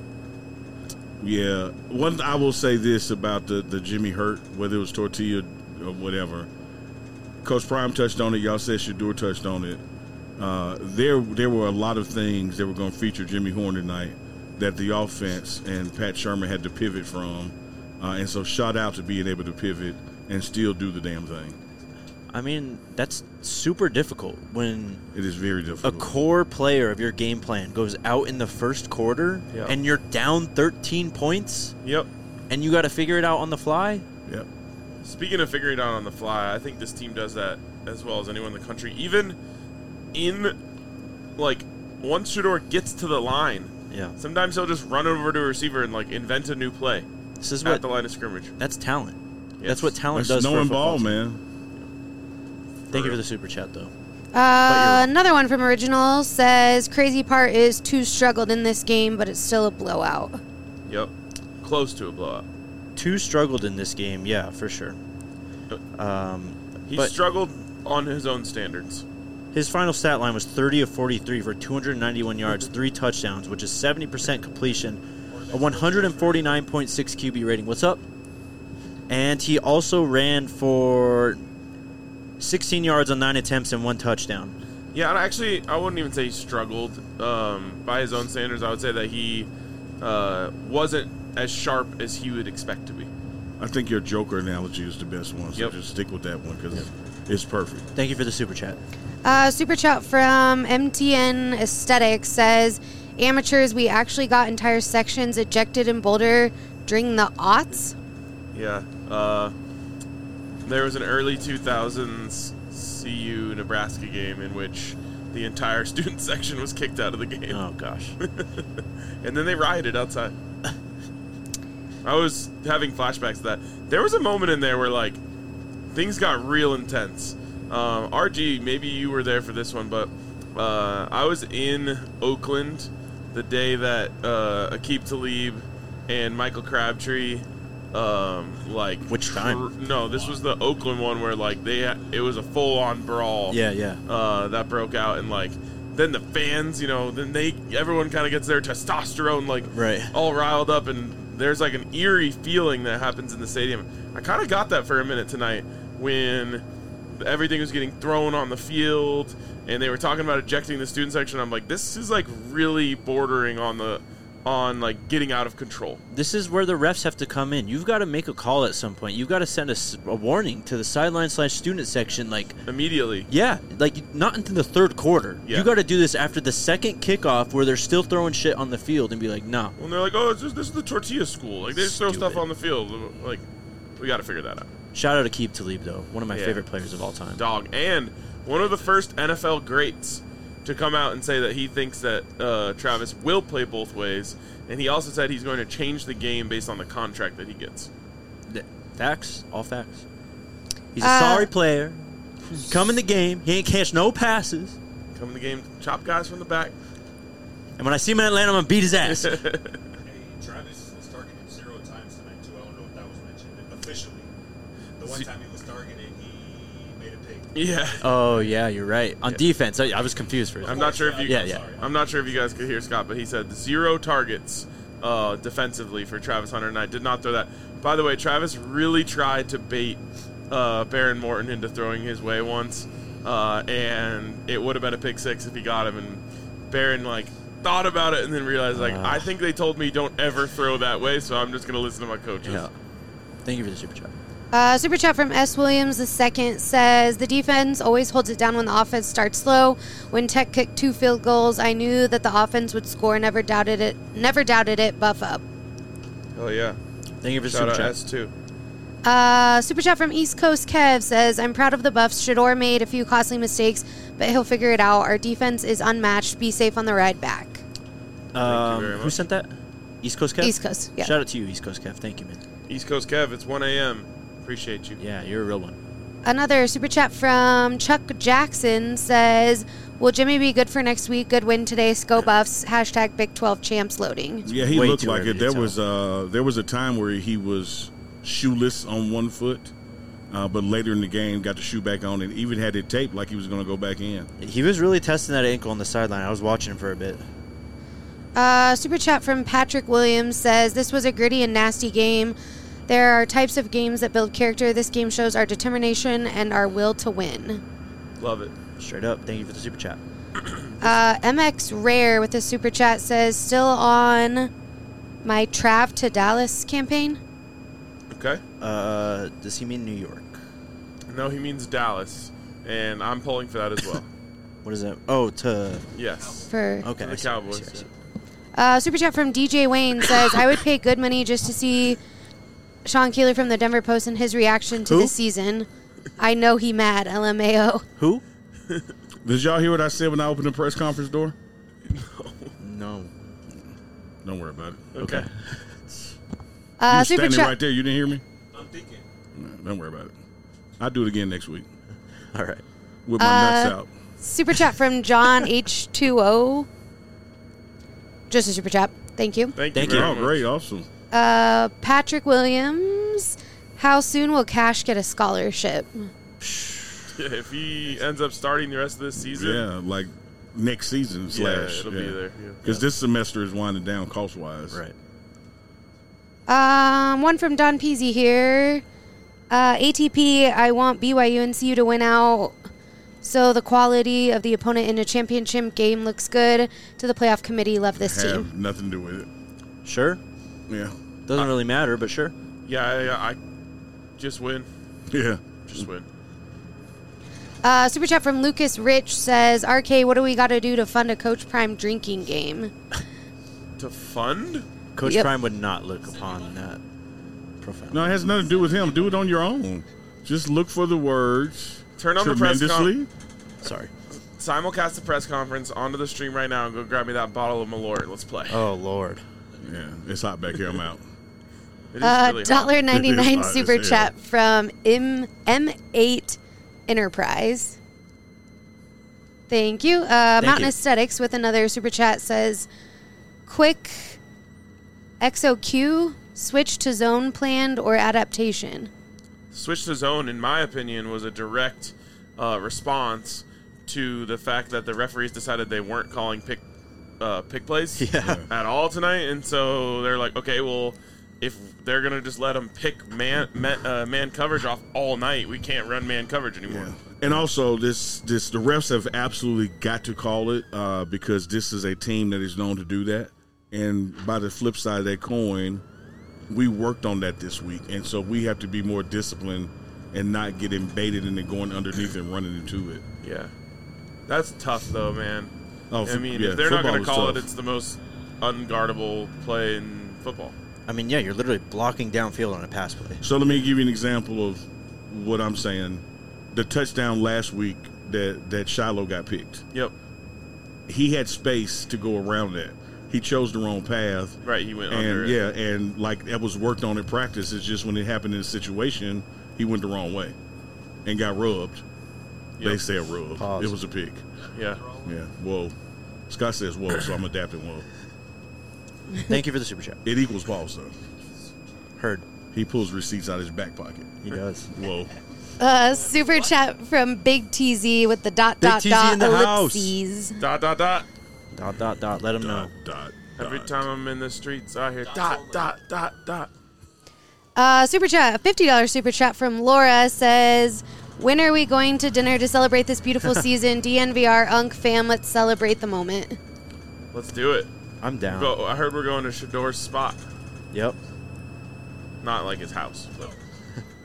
Yeah. One, I will say this about the, the Jimmy Hurt, whether it was Tortilla or whatever. Coach Prime touched on it. Y'all said Shador touched on it. Uh, there, there were a lot of things that were going to feature Jimmy Horn tonight that the offense and Pat Shermer had to pivot from. Uh, and so shout out to being able to pivot and still do the damn thing. I mean, that's super difficult when It is very a difficult. core player of your game plan goes out in the first quarter Yeah. and you're down thirteen points Yep. and you got to figure it out on the fly. Yep. Speaking of figuring it out on the fly, I think this team does that as well as anyone in the country. Even in, like, once Shador gets to the line, Yeah. sometimes he'll just run over to a receiver and, like, invent a new play This is at what the line of scrimmage. that's talent. Yes. That's what talent That's does for a knowing football ball, team. man. Thank you for the super chat, though. Uh, another one from Original says crazy part is two struggled in this game, but it's still a blowout. Yep. Close to a blowout. Two struggled in this game, yeah, for sure. Um, He but struggled on his own standards. his final stat line was thirty of forty-three for two hundred ninety-one yards, three touchdowns, which is seventy percent completion, a one forty-nine point six Q B rating. What's up? And he also ran for sixteen yards on nine attempts and one touchdown. Yeah, and actually, I wouldn't even say he struggled. Um, by his own standards, I would say that he uh, wasn't as sharp as he would expect to be. I think your Joker analogy is the best one, so Yep. just stick with that one because it's perfect. Thank you for the super chat. Uh, super chat from M T N Aesthetics says, amateurs, we actually got entire sections ejected in Boulder during the aughts. Yeah. Uh, there was an early two thousands C U Nebraska game in which the entire student section was kicked out of the game. Oh, gosh. And then they rioted outside. I was having flashbacks to that. There was a moment in there where, like, things got real intense. Um, R G, maybe you were there for this one, but uh, I was in Oakland the day that uh, Aqib Talib and Michael Crabtree, um, like, Which time? no, this was the Oakland one where, like, they ha- it was a full-on brawl. Yeah, yeah. Uh, that broke out, and like then the fans, you know, then they everyone kind of gets their testosterone like Right. all riled up, and there's like an eerie feeling that happens in the stadium. I kind of got that for a minute tonight when everything was getting thrown on the field and they were talking about ejecting the student section. I'm like, this is like really bordering on the on like getting out of control. This is where the refs have to come in. You've got to make a call at some point. You've got to send a, s- a warning to the sideline slash student section. Like, Immediately. yeah, like not into the third quarter. Yeah. You got to do this after the second kickoff where they're still throwing shit on the field and be like, nah. When they're like, oh, it's just, this is the tortilla school. Like, they just throw Stupid. stuff on the field. Like, we got to figure that out. Shout out to Aqib Talib, though. One of my Yeah. favorite players of all time. Dog. And one of the first N F L greats to come out and say that he thinks that uh, Travis will play both ways. And he also said he's going to change the game based on the contract that he gets. Th- Facts. All facts. He's a Uh, sorry player. Come in the game. He ain't catch no passes. Come in the game, chop guys from the back. And when I see him in Atlanta, I'm going to beat his ass. Hey, Travis was targeted zero times tonight too. I don't know if that was mentioned officially. The one See- time he was targeted, he made a pick. Yeah. Oh, yeah, you're right. On Yeah. defense, I, I was confused for a I'm second. not sure if you Yeah, yeah. I'm not sure if you guys could hear Scott, but he said zero targets uh, defensively for Travis Hunter, and I did not throw that. By the way, Travis really tried to bait uh, Baron Morton into throwing his way once, uh, and it would have been a pick six if he got him. And Baron like thought about it and then realized like Uh. I think they told me don't ever throw that way, so I'm just gonna listen to my coaches. Yeah. Thank you for the super chat. Uh, super chat from S. Williams the second says the defense always holds it down when the offense starts slow. When Tech kicked two field goals, I knew that the offense would score. Never doubted it. Never doubted it. Buff up. Oh yeah. Thank you for the Shout super out chat. S two. Uh, super chat from East Coast Kev says, I'm proud of the Buffs. Shador made a few costly mistakes, but he'll figure it out. Our defense is unmatched. Be safe on the ride back. Um, very who much. sent that? East Coast Kev? East Coast, yeah. Shout out to you, East Coast Kev. Thank you, man. East Coast Kev, it's one a.m. Appreciate you. Yeah, you're a real one. Another super chat from Chuck Jackson says, will Jimmy be good for next week? Good win today. Go Buffs. Hashtag Big twelve champs loading. Yeah, he Way looked too like early it. to There tell. was uh there was a time where he was shoeless on one foot, uh, but later in the game got the shoe back on and even had it taped like he was going to go back in. He was really testing that ankle on the sideline. I was watching him for a bit. Uh, super chat from Patrick Williams says, this was a gritty and nasty game. There are types of games that build character. This game shows our determination and our will to win. Love it. Straight up. Thank you for the super chat. Uh, M X Rare with the super chat says, still on my Trav to Dallas campaign. Okay. Uh, does he mean New York? No, he means Dallas, and I'm pulling for that as well. What is that? Oh, to... Yes. For Okay. The I see, I Cowboys. see, I see. uh, super chat from D J Wayne says, I would pay good money just to see Sean Keeler from the Denver Post and his reaction to Who? this season. I know he mad. L M A O. Who? Did y'all hear what I said when I opened the press conference door? No. Don't worry about it. Okay. Uh, you were super standing chat. right there. You didn't hear me? I'm thinking. No, don't worry about it. I'll do it again next week All right. with my Uh, nuts out. Super chat from John H two O. Just a super chat. Thank you. Thank, Thank you. you. Very Oh, much. great. Awesome. Uh, Patrick Williams. How soon will Cash get a scholarship? If he ends up starting the rest of this season, Yeah, like next season yeah, slash. it'll be there. Yeah. Because this semester is winding down cost wise. Right. Um, one from Don Peasy here. Uh, A T P, I want B Y U and C U to win out. So the quality of the opponent in a championship game looks good. To the playoff committee, love this Have team. nothing to do with it. Sure. Yeah. Doesn't really matter, but sure. Yeah, yeah, I just win. Yeah. Just win. Uh, super chat from Lucas Rich says, R K, what do we got to do to fund a Coach Prime drinking game? To fund? Coach Yep. Prime would not look upon that profound. No, it has nothing to do with him. Do it on your own. Just look for the words. Turn on the press tremendously. Sorry. Simulcast the press conference onto the stream right now and go grab me that bottle of Malort. Let's play. Oh, Lord. Yeah, it's hot back here. I'm out. It is Uh, really hot. dollar ninety nine It is hot super as hell. chat from M M eight Enterprise. Thank you. Uh, Mountain you. Aesthetics with another super chat says, quick X O Q switch to zone planned or adaptation. Switch to zone, in my opinion, was a direct uh, response to the fact that the referees decided they weren't calling pick uh, pick plays Yeah. at all tonight, and so they're like, okay, well, if they're gonna just let them pick man man, uh, man coverage off all night, we can't run man coverage anymore. Yeah. And also, this this the refs have absolutely got to call it uh, because this is a team that is known to do that. And by the flip side of that coin, we worked on that this week, and so we have to be more disciplined and not get invaded into going underneath and running into it. Yeah, that's tough though, man. Oh, I mean, yeah, if they're not football gonna is call it, tough. it's the most unguardable play in football. I mean, yeah, you're literally blocking downfield on a pass play. So let me give you an example of what I'm saying. The touchdown last week that that Shiloh got picked. Yep. He had space to go around that. He chose the wrong path. Right, he went under And it. yeah, and like that was worked on in practice. It's just when it happened in a situation, he went the wrong way and got rubbed. They Yep. said rubbed. Pause. It was a pick. Yeah. Yeah. Whoa. Scott says whoa, so I'm adapting whoa. Thank you for the super chat. It equals pause though. Heard. He pulls receipts out of his back pocket. He does. Whoa. Uh, super chat from Big T Z with the dot Big dot T Z dot in the house. ellipses. Dot dot dot. Dot, dot, dot. Let him know. Dot, dot, Every dot. time I'm in the streets, I hear dot dot dot dot. Uh, super chat, a fifty dollars super chat from Laura says, when are we going to dinner to celebrate this beautiful season? D N V R, Unk fam, let's celebrate the moment. Let's do it. I'm down. Go. I heard we're going to Shador's spot. Yep. Not like his house, but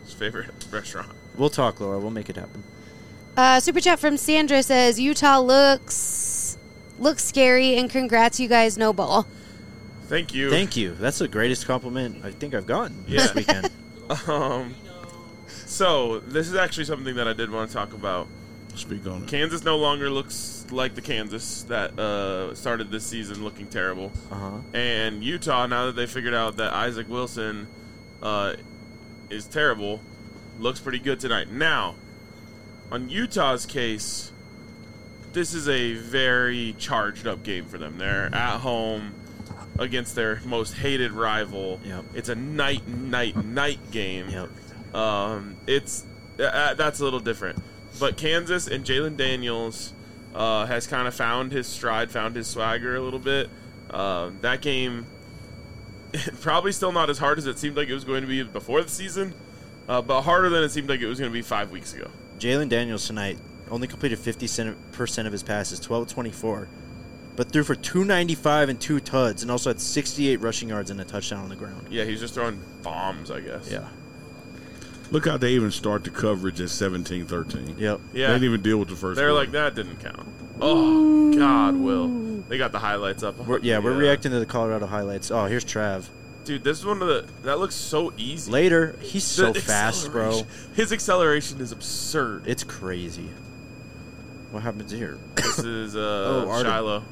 his favorite restaurant. We'll talk, Laura. We'll make it happen. Uh, Super chat from Sandra says, Utah looks looks scary, and congrats, you guys, no ball. Thank you. Thank you. That's the greatest compliment I think I've gotten Yeah. this weekend. Um, so, this is actually something that I did want to talk about. Speak on it. Kansas no longer looks like the Kansas that uh, started this season looking terrible. Uh-huh. And Utah, now that they figured out that Isaac Wilson uh, is terrible, looks pretty good tonight. Now, on Utah's case, this is a very charged up game for them. They're at home against their most hated rival. Yep. It's a night, night, night game. Yep. Um, it's uh, that's a little different. But Kansas and Jalen Daniels uh, has kind of found his stride, found his swagger a little bit. Uh, that game, probably still not as hard as it seemed like it was going to be before the season, uh, but harder than it seemed like it was going to be five weeks ago. Jalen Daniels tonight only completed fifty percent of his passes, twelve twenty-four, but threw for two ninety-five and two T U Ds, and also had sixty-eight rushing yards and a touchdown on the ground. Yeah, he's just throwing bombs, I guess. Yeah. Look how they even start the coverage at seventeen thirteen. Yep. Yeah. They didn't even deal with the first They're quarter. like, that didn't count. Oh, God, Will. They got the highlights up. We're, yeah, we're reacting to the Colorado highlights. Oh, here's Trav. Dude, this is one of the... That looks so easy. Later, he's so The fast, bro. acceleration- His acceleration is absurd. It's crazy. What happens here? This is uh, Oh, Artem. Shiloh.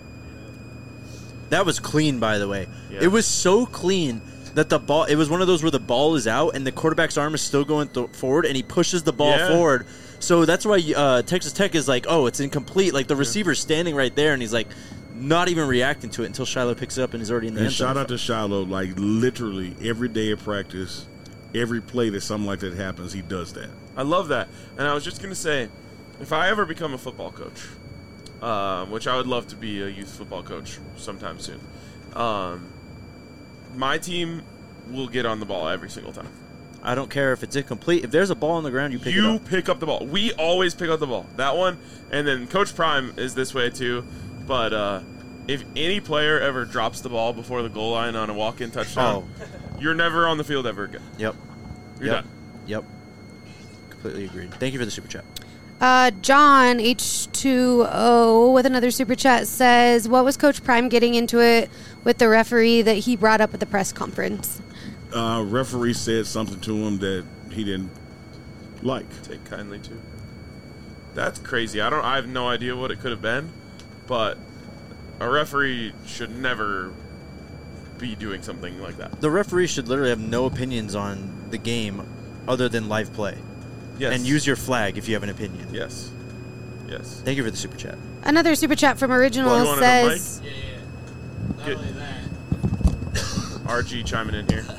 That was clean, by the way. Yeah. It was so clean that the ball, it was one of those where the ball is out and the quarterback's arm is still going th- forward and he pushes the ball Yeah. forward. So that's why uh, Texas Tech is like, oh, it's incomplete. Like the receiver's standing right there and he's like not even reacting to it until Shiloh picks it up and is already in the And end zone. shout out to Shiloh, like literally every day of practice, every play that something like that happens, he does that. I love that. And I was just going to say, if I ever become a football coach, um, which I would love to be a youth football coach sometime soon, um, my team will get on the ball every single time. I don't care if it's incomplete. If there's a ball on the ground, you pick you it up. pick up the ball. We always pick up the ball. That one, and then Coach Prime is this way too. But uh, if any player ever drops the ball before the goal line on a walk-in touchdown, you're never on the field ever again. Yep. You're yep. done. Yep. Completely agreed. Thank you for the super chat. Uh, John H two O with another super chat says, what was Coach Prime getting into it with the referee that he brought up at the press conference? Uh, referee said something to him that he didn't like. Take kindly to. That's crazy. I don't. I have no idea what it could have been, but a referee should never be doing something like that. The referee should literally have no opinions on the game other than live play. Yes. And use your flag if you have an opinion. Yes. Yes. Thank you for the super chat. Another super chat from Original Well, you want it on mic? says, Yeah, yeah. Not Get- only that. R G chiming in here.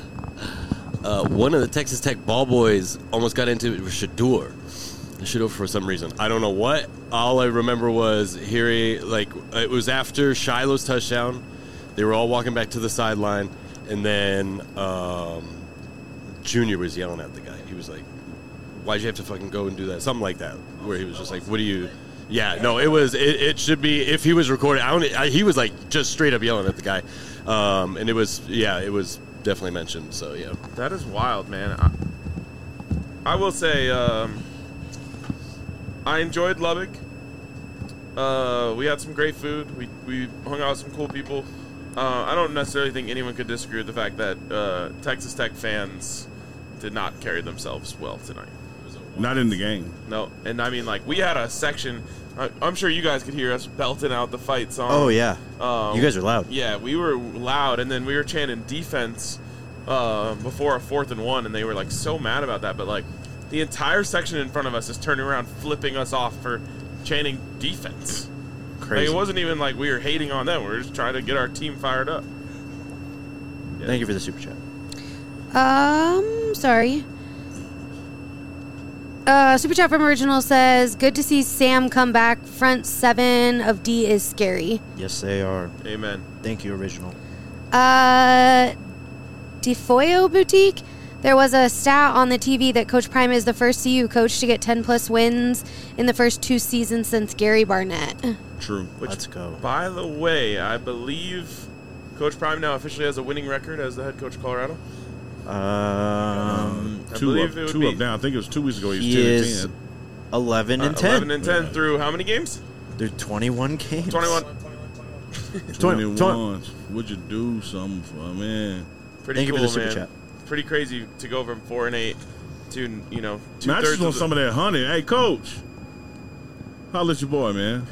Uh, one of the Texas Tech ball boys almost got into it with Shador. Shador for some reason. I don't know what. All I remember was hearing, like, it was after Shiloh's touchdown. They were all walking back to the sideline, and then um, Junior was yelling at the guy. He was like, why'd you have to fucking go and do that? Something like that, where he was just like, what do you... Yeah, no, it was. It, it should be, if he was recording, I don't, I, he was like just straight up yelling at the guy. Um, and it was, yeah, it was definitely mentioned, so yeah. That is wild, man. I, I will say, um, I enjoyed Lubbock. Uh, we had some great food. We we hung out with some cool people. Uh, I don't necessarily think anyone could disagree with the fact that uh, Texas Tech fans did not carry themselves well tonight. Not in the game. No, and I mean, like, we had a section. I, I'm sure you guys could hear us belting out the fight song. Oh, yeah. Um, You guys are loud. Yeah, we were loud, and then we were chanting defense uh, before a fourth and one, and they were like so mad about that. But like, the entire section in front of us is turning around, flipping us off for chanting defense. Crazy. Like, it wasn't even like we were hating on them. We were just trying to get our team fired up. Yeah. Thank you for the super chat. um, sorry. Uh, super chat from Original says, good to see Sam come back. Front seven of D is scary. Yes, they are. Amen. Thank you, Original. Uh, DeFoyo Boutique. There was a stat on the T V that Coach Prime is the first C U coach to get ten plus wins in the first two seasons since Gary Barnett. True. Which, Let's go. by the way, I believe Coach Prime now officially has a winning record as the head coach of Colorado. Um, I two believe up, it would two be up now. I think it was two weeks ago. He was He ten is- and ten. eleven and uh, ten. eleven and ten Yeah. through how many games? They're twenty-one games. twenty-one. twenty- twenty-one. Would you do something for man? Pretty Thank you cool, for the super man. chat. Pretty crazy to go from four and eight to you know two Man, I thirds just want of some the, of that honey. Hey, coach. Holla at your boy, man.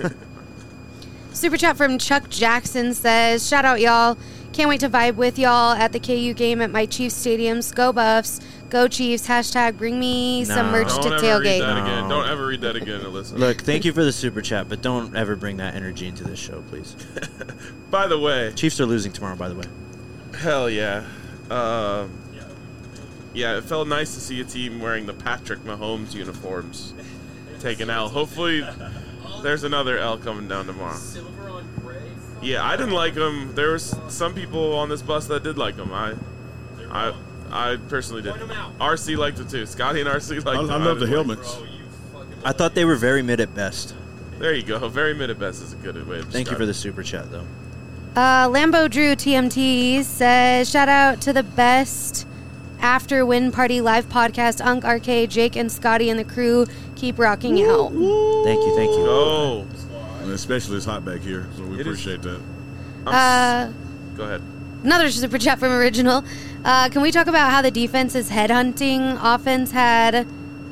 Super chat from Chuck Jackson says, shout out, y'all. Can't wait to vibe with y'all at the K U game at my Chiefs stadiums. Go Buffs. Go Chiefs. Hashtag bring me some No. merch Don't to ever read tailgate. that again. No. Don't ever read that again, Alyssa. Look, thank you for the super chat, but don't ever bring that energy into this show, please. By the way, Chiefs are losing tomorrow, by the way. hell yeah. Uh, yeah, it felt nice to see a team wearing the Patrick Mahomes uniforms take an L. Hopefully, there's another L coming down tomorrow. Yeah, I didn't like them. There was some people on this bus that did like them. I, I, I personally did. R C liked it too. Scotty and R C liked I, it. I love the didn't like helmets. I thought they were very mid at best. it. There you go. Very mid at best is a good way to Thank you describe for it. the super chat, though. Uh, Lambo Drew T M T says, shout out to the best after win party live podcast. Unk, R K, Jake, and Scotty and the crew keep rocking out. Thank you, thank you. Oh, And especially it's hot back here, so we It is- appreciate that. I'm Uh, s- go ahead. Another super chat from Original. Uh, can we talk about how the defense's headhunting offense had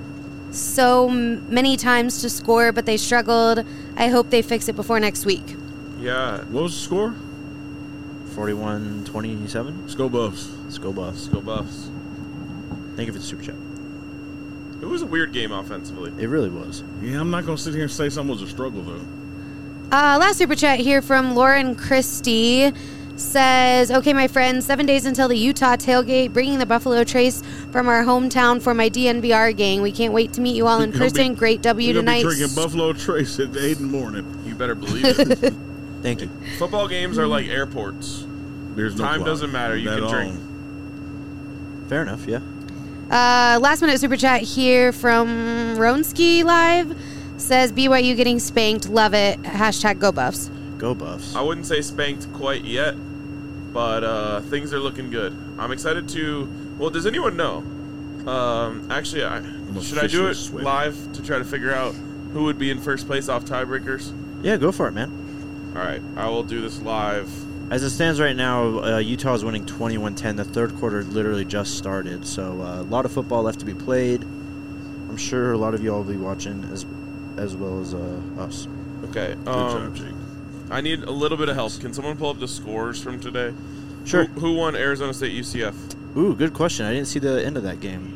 so m- many times to score, but they struggled? I hope they fix it before next week. Yeah, What was the score? forty-one twenty-seven. Let's go Buffs. Let's go Buffs. go Buffs. Thank you for the super chat. It was a weird game offensively. It really was. Yeah, I'm not going to sit here and say something was a struggle, though. Uh, last super chat here from Lauren Christie says, okay, my friends, seven days until the Utah tailgate, bringing the Buffalo Trace from our hometown for my D N V R gang. We can't wait to meet you all in You're gonna person. be- Great W You're gonna tonight. be drinking Buffalo Trace at eight in the morning. You better believe it. Thank you. Football games are like airports. There's no Time clock. doesn't matter. You Not can at drink. all. Fair enough, yeah. Uh, last minute super chat here from Ronski Live says, B Y U getting spanked. Love it. Hashtag go Buffs. Go Buffs. I wouldn't say spanked quite yet, but uh, things are looking good. I'm excited to. Well, does anyone know? Um, actually, I, should I do officially it sweating. live to try to figure out who would be in first place off tiebreakers? Yeah, go for it, man. All right, I will do this live. As it stands right now, uh, Utah is winning twenty-one ten. The third quarter literally just started, so uh, a lot of football left to be played. I'm sure a lot of you all will be watching as as well as uh, us. Okay. Good Um, job, Jake. I need a little bit of help. Can someone pull up the scores from today? Sure. Who, who won Arizona State U C F? Ooh, good question. I didn't see the end of that game.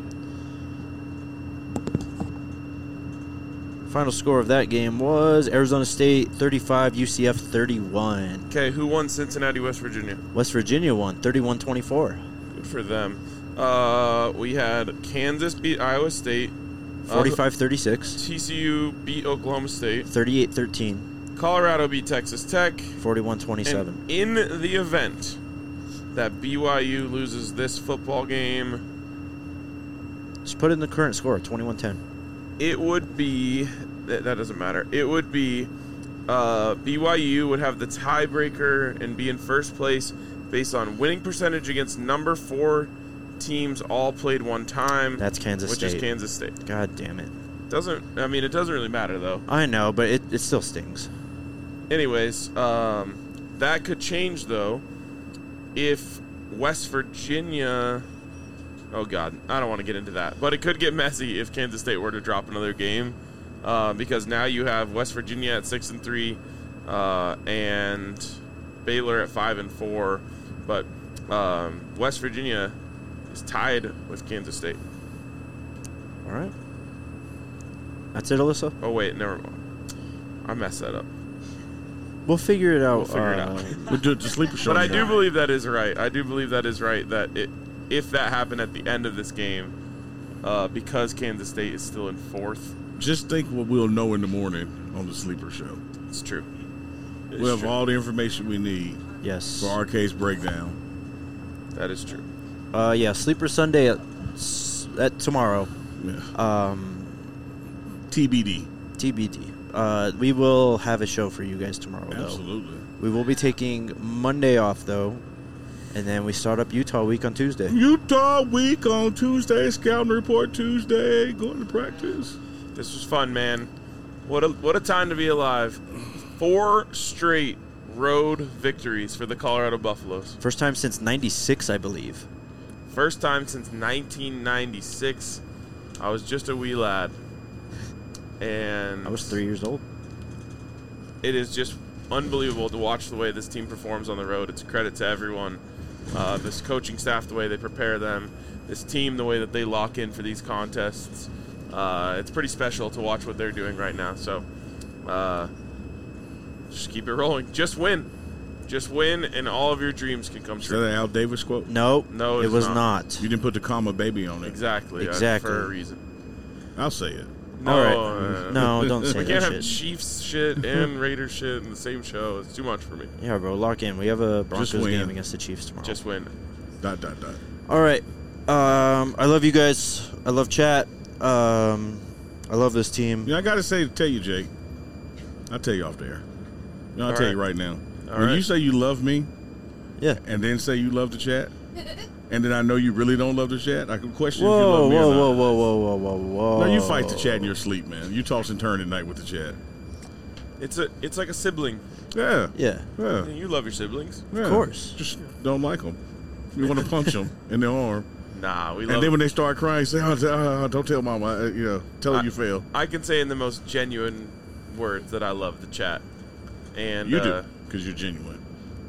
Final score of that game was Arizona State thirty-five, U C F thirty-one. Okay, who won Cincinnati, West Virginia? West Virginia won thirty-one twenty-four. Good for them. Uh, we had Kansas beat Iowa State. Uh, forty-five thirty-six. T C U beat Oklahoma State. thirty-eight thirteen. Colorado beat Texas Tech. forty-one twenty-seven. And in the event that B Y U loses this football game, Just put in the current score, twenty-one ten. it would be that, that doesn't matter. It would be uh, B Y U would have the tiebreaker and be in first place based on winning percentage against number four teams all played one time. That's Kansas which State. is Kansas State. God damn it. Doesn't I mean it doesn't really matter though. I know, but it, it still stings. Anyways, um, that could change though if West Virginia. Oh God, I don't want to get into that, but it could get messy if Kansas State were to drop another game, uh, because now you have West Virginia at six and three, uh, and Baylor at five and four, but um, West Virginia is tied with Kansas State. All right. That's it, Alyssa? Oh wait, never mind. I messed that up. We'll figure it out. We'll figure it uh, out. We'll do it to sleeper show. But I do tomorrow. believe that is right. I do believe that is right. That it, if that happened at the end of this game, uh, because Kansas State is still in fourth, Just think what we'll know in the morning on the sleeper show. it's true. It's We'll have true. all the information we need Yes. for our case breakdown. That is true. Uh, yeah, Sleeper Sunday at, s- at tomorrow. Yeah. Um, T B D. T B D. Uh, we will have a show for you guys tomorrow, though. Absolutely. We will be taking Monday off, though. And then we start up Utah week on Tuesday. Utah week on Tuesday. Scouting report Tuesday. Going to practice. This was fun, man. What a what a time to be alive. Four straight road victories for the Colorado Buffaloes. First time since ninety-six, I believe. First time since nineteen ninety-six. I was just a wee lad. And I was three years old. it is just unbelievable to watch the way this team performs on the road. It's a credit to everyone. Uh, this coaching staff, the way they prepare them. This team, the way that they lock in for these contests. Uh, it's pretty special to watch what they're doing right now. So, uh, just keep it rolling. Just win. Just win, and all of your dreams can come Is true. that an Al Davis quote? No, No, it it's was not. not. You didn't put the comma baby on it. Exactly. uh, Exactly. for a reason. I'll say it. No, All right. uh, No, don't say we that can't have shit. Chiefs shit and Raiders shit in the same show. It's too much for me. Yeah, bro, lock in. We have a Broncos win. game against the Chiefs tomorrow. Just win. Dot, dot, dot. All right. Um, I love you guys. I love chat. Um, I love this team. You know, I got to say, tell you, Jake. I'll tell you off there. You know, I'll All tell right. you right now. All when right. you say you love me Yeah. and then say you love the chat, and then I know you really don't love the chat, I can question if you Whoa, love me whoa, or not. whoa, whoa, whoa, whoa, whoa, whoa. No, you fight the chat in your sleep, man. You toss and turn at night with the chat. It's a. It's like a sibling. Yeah. Yeah, Yeah. You love your siblings. yeah. of course. Just don't like them. You want to punch them in the arm. Nah, we And love. then when they start crying, say, oh, uh, don't tell mama. Uh, you know, tell her I- you fail. I can say in the most genuine words that I love the chat. And You uh, do, because you're genuine.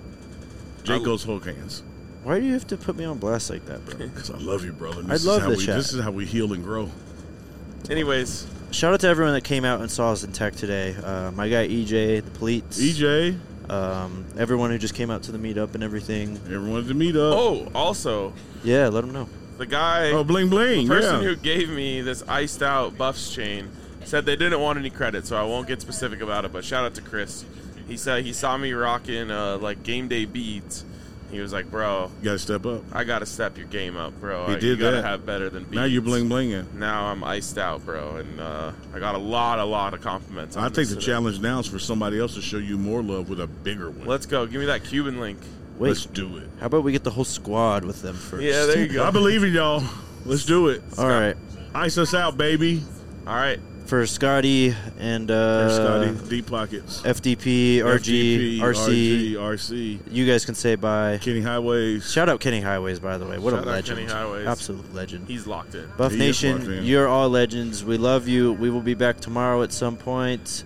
Jake I- goes Hulk hands. Why do you have to put me on blast like that, bro? Because I love you, brother. And I This love is how the we, chat. This is how we heal and grow. Anyways, Shout out to everyone that came out and saw us in tech today. Uh, my guy E J, the Pleats. E J, Um, everyone who just came out to the meetup and everything. everyone to meet up. oh, also Yeah, let them know. the guy, Oh, bling bling. the person yeah. who gave me this iced out Buffs chain, said they didn't want any credit, so I won't get specific about it. But shout out to Chris. He said he saw me rocking uh, like game day beads. He was like, "Bro, You got to step up. I gotta step your game up, bro. He I, did you gotta that. have better than beads." Now you're bling blinging. Now I'm iced out, bro, and uh, I got a lot, a lot of compliments. On I this think the today. challenge now is for somebody else to show you more love with a bigger one. Let's go. Give me that Cuban link. Wait, Let's do it. how about we get the whole squad with them first? Yeah, there you go. I believe in y'all. Let's do it. All right. Ice us out, baby. All right. For Scotty and uh, There's Scotty. Deep pockets. F D P, R G, F D P, R C. R G, R C. You guys can say bye. Kenny Highways. Shout out Kenny Highways, by the way. What Shout a out legend. Kenny Highways. Absolute legend. He's locked in. Buff He is locked Nation, in. you're all legends. We love you. We will be back tomorrow at some point.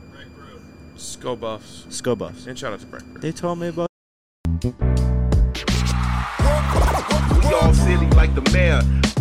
Go Buffs. Sco Buffs. And shout out to Breck. They told me about. We all silly like the mayor.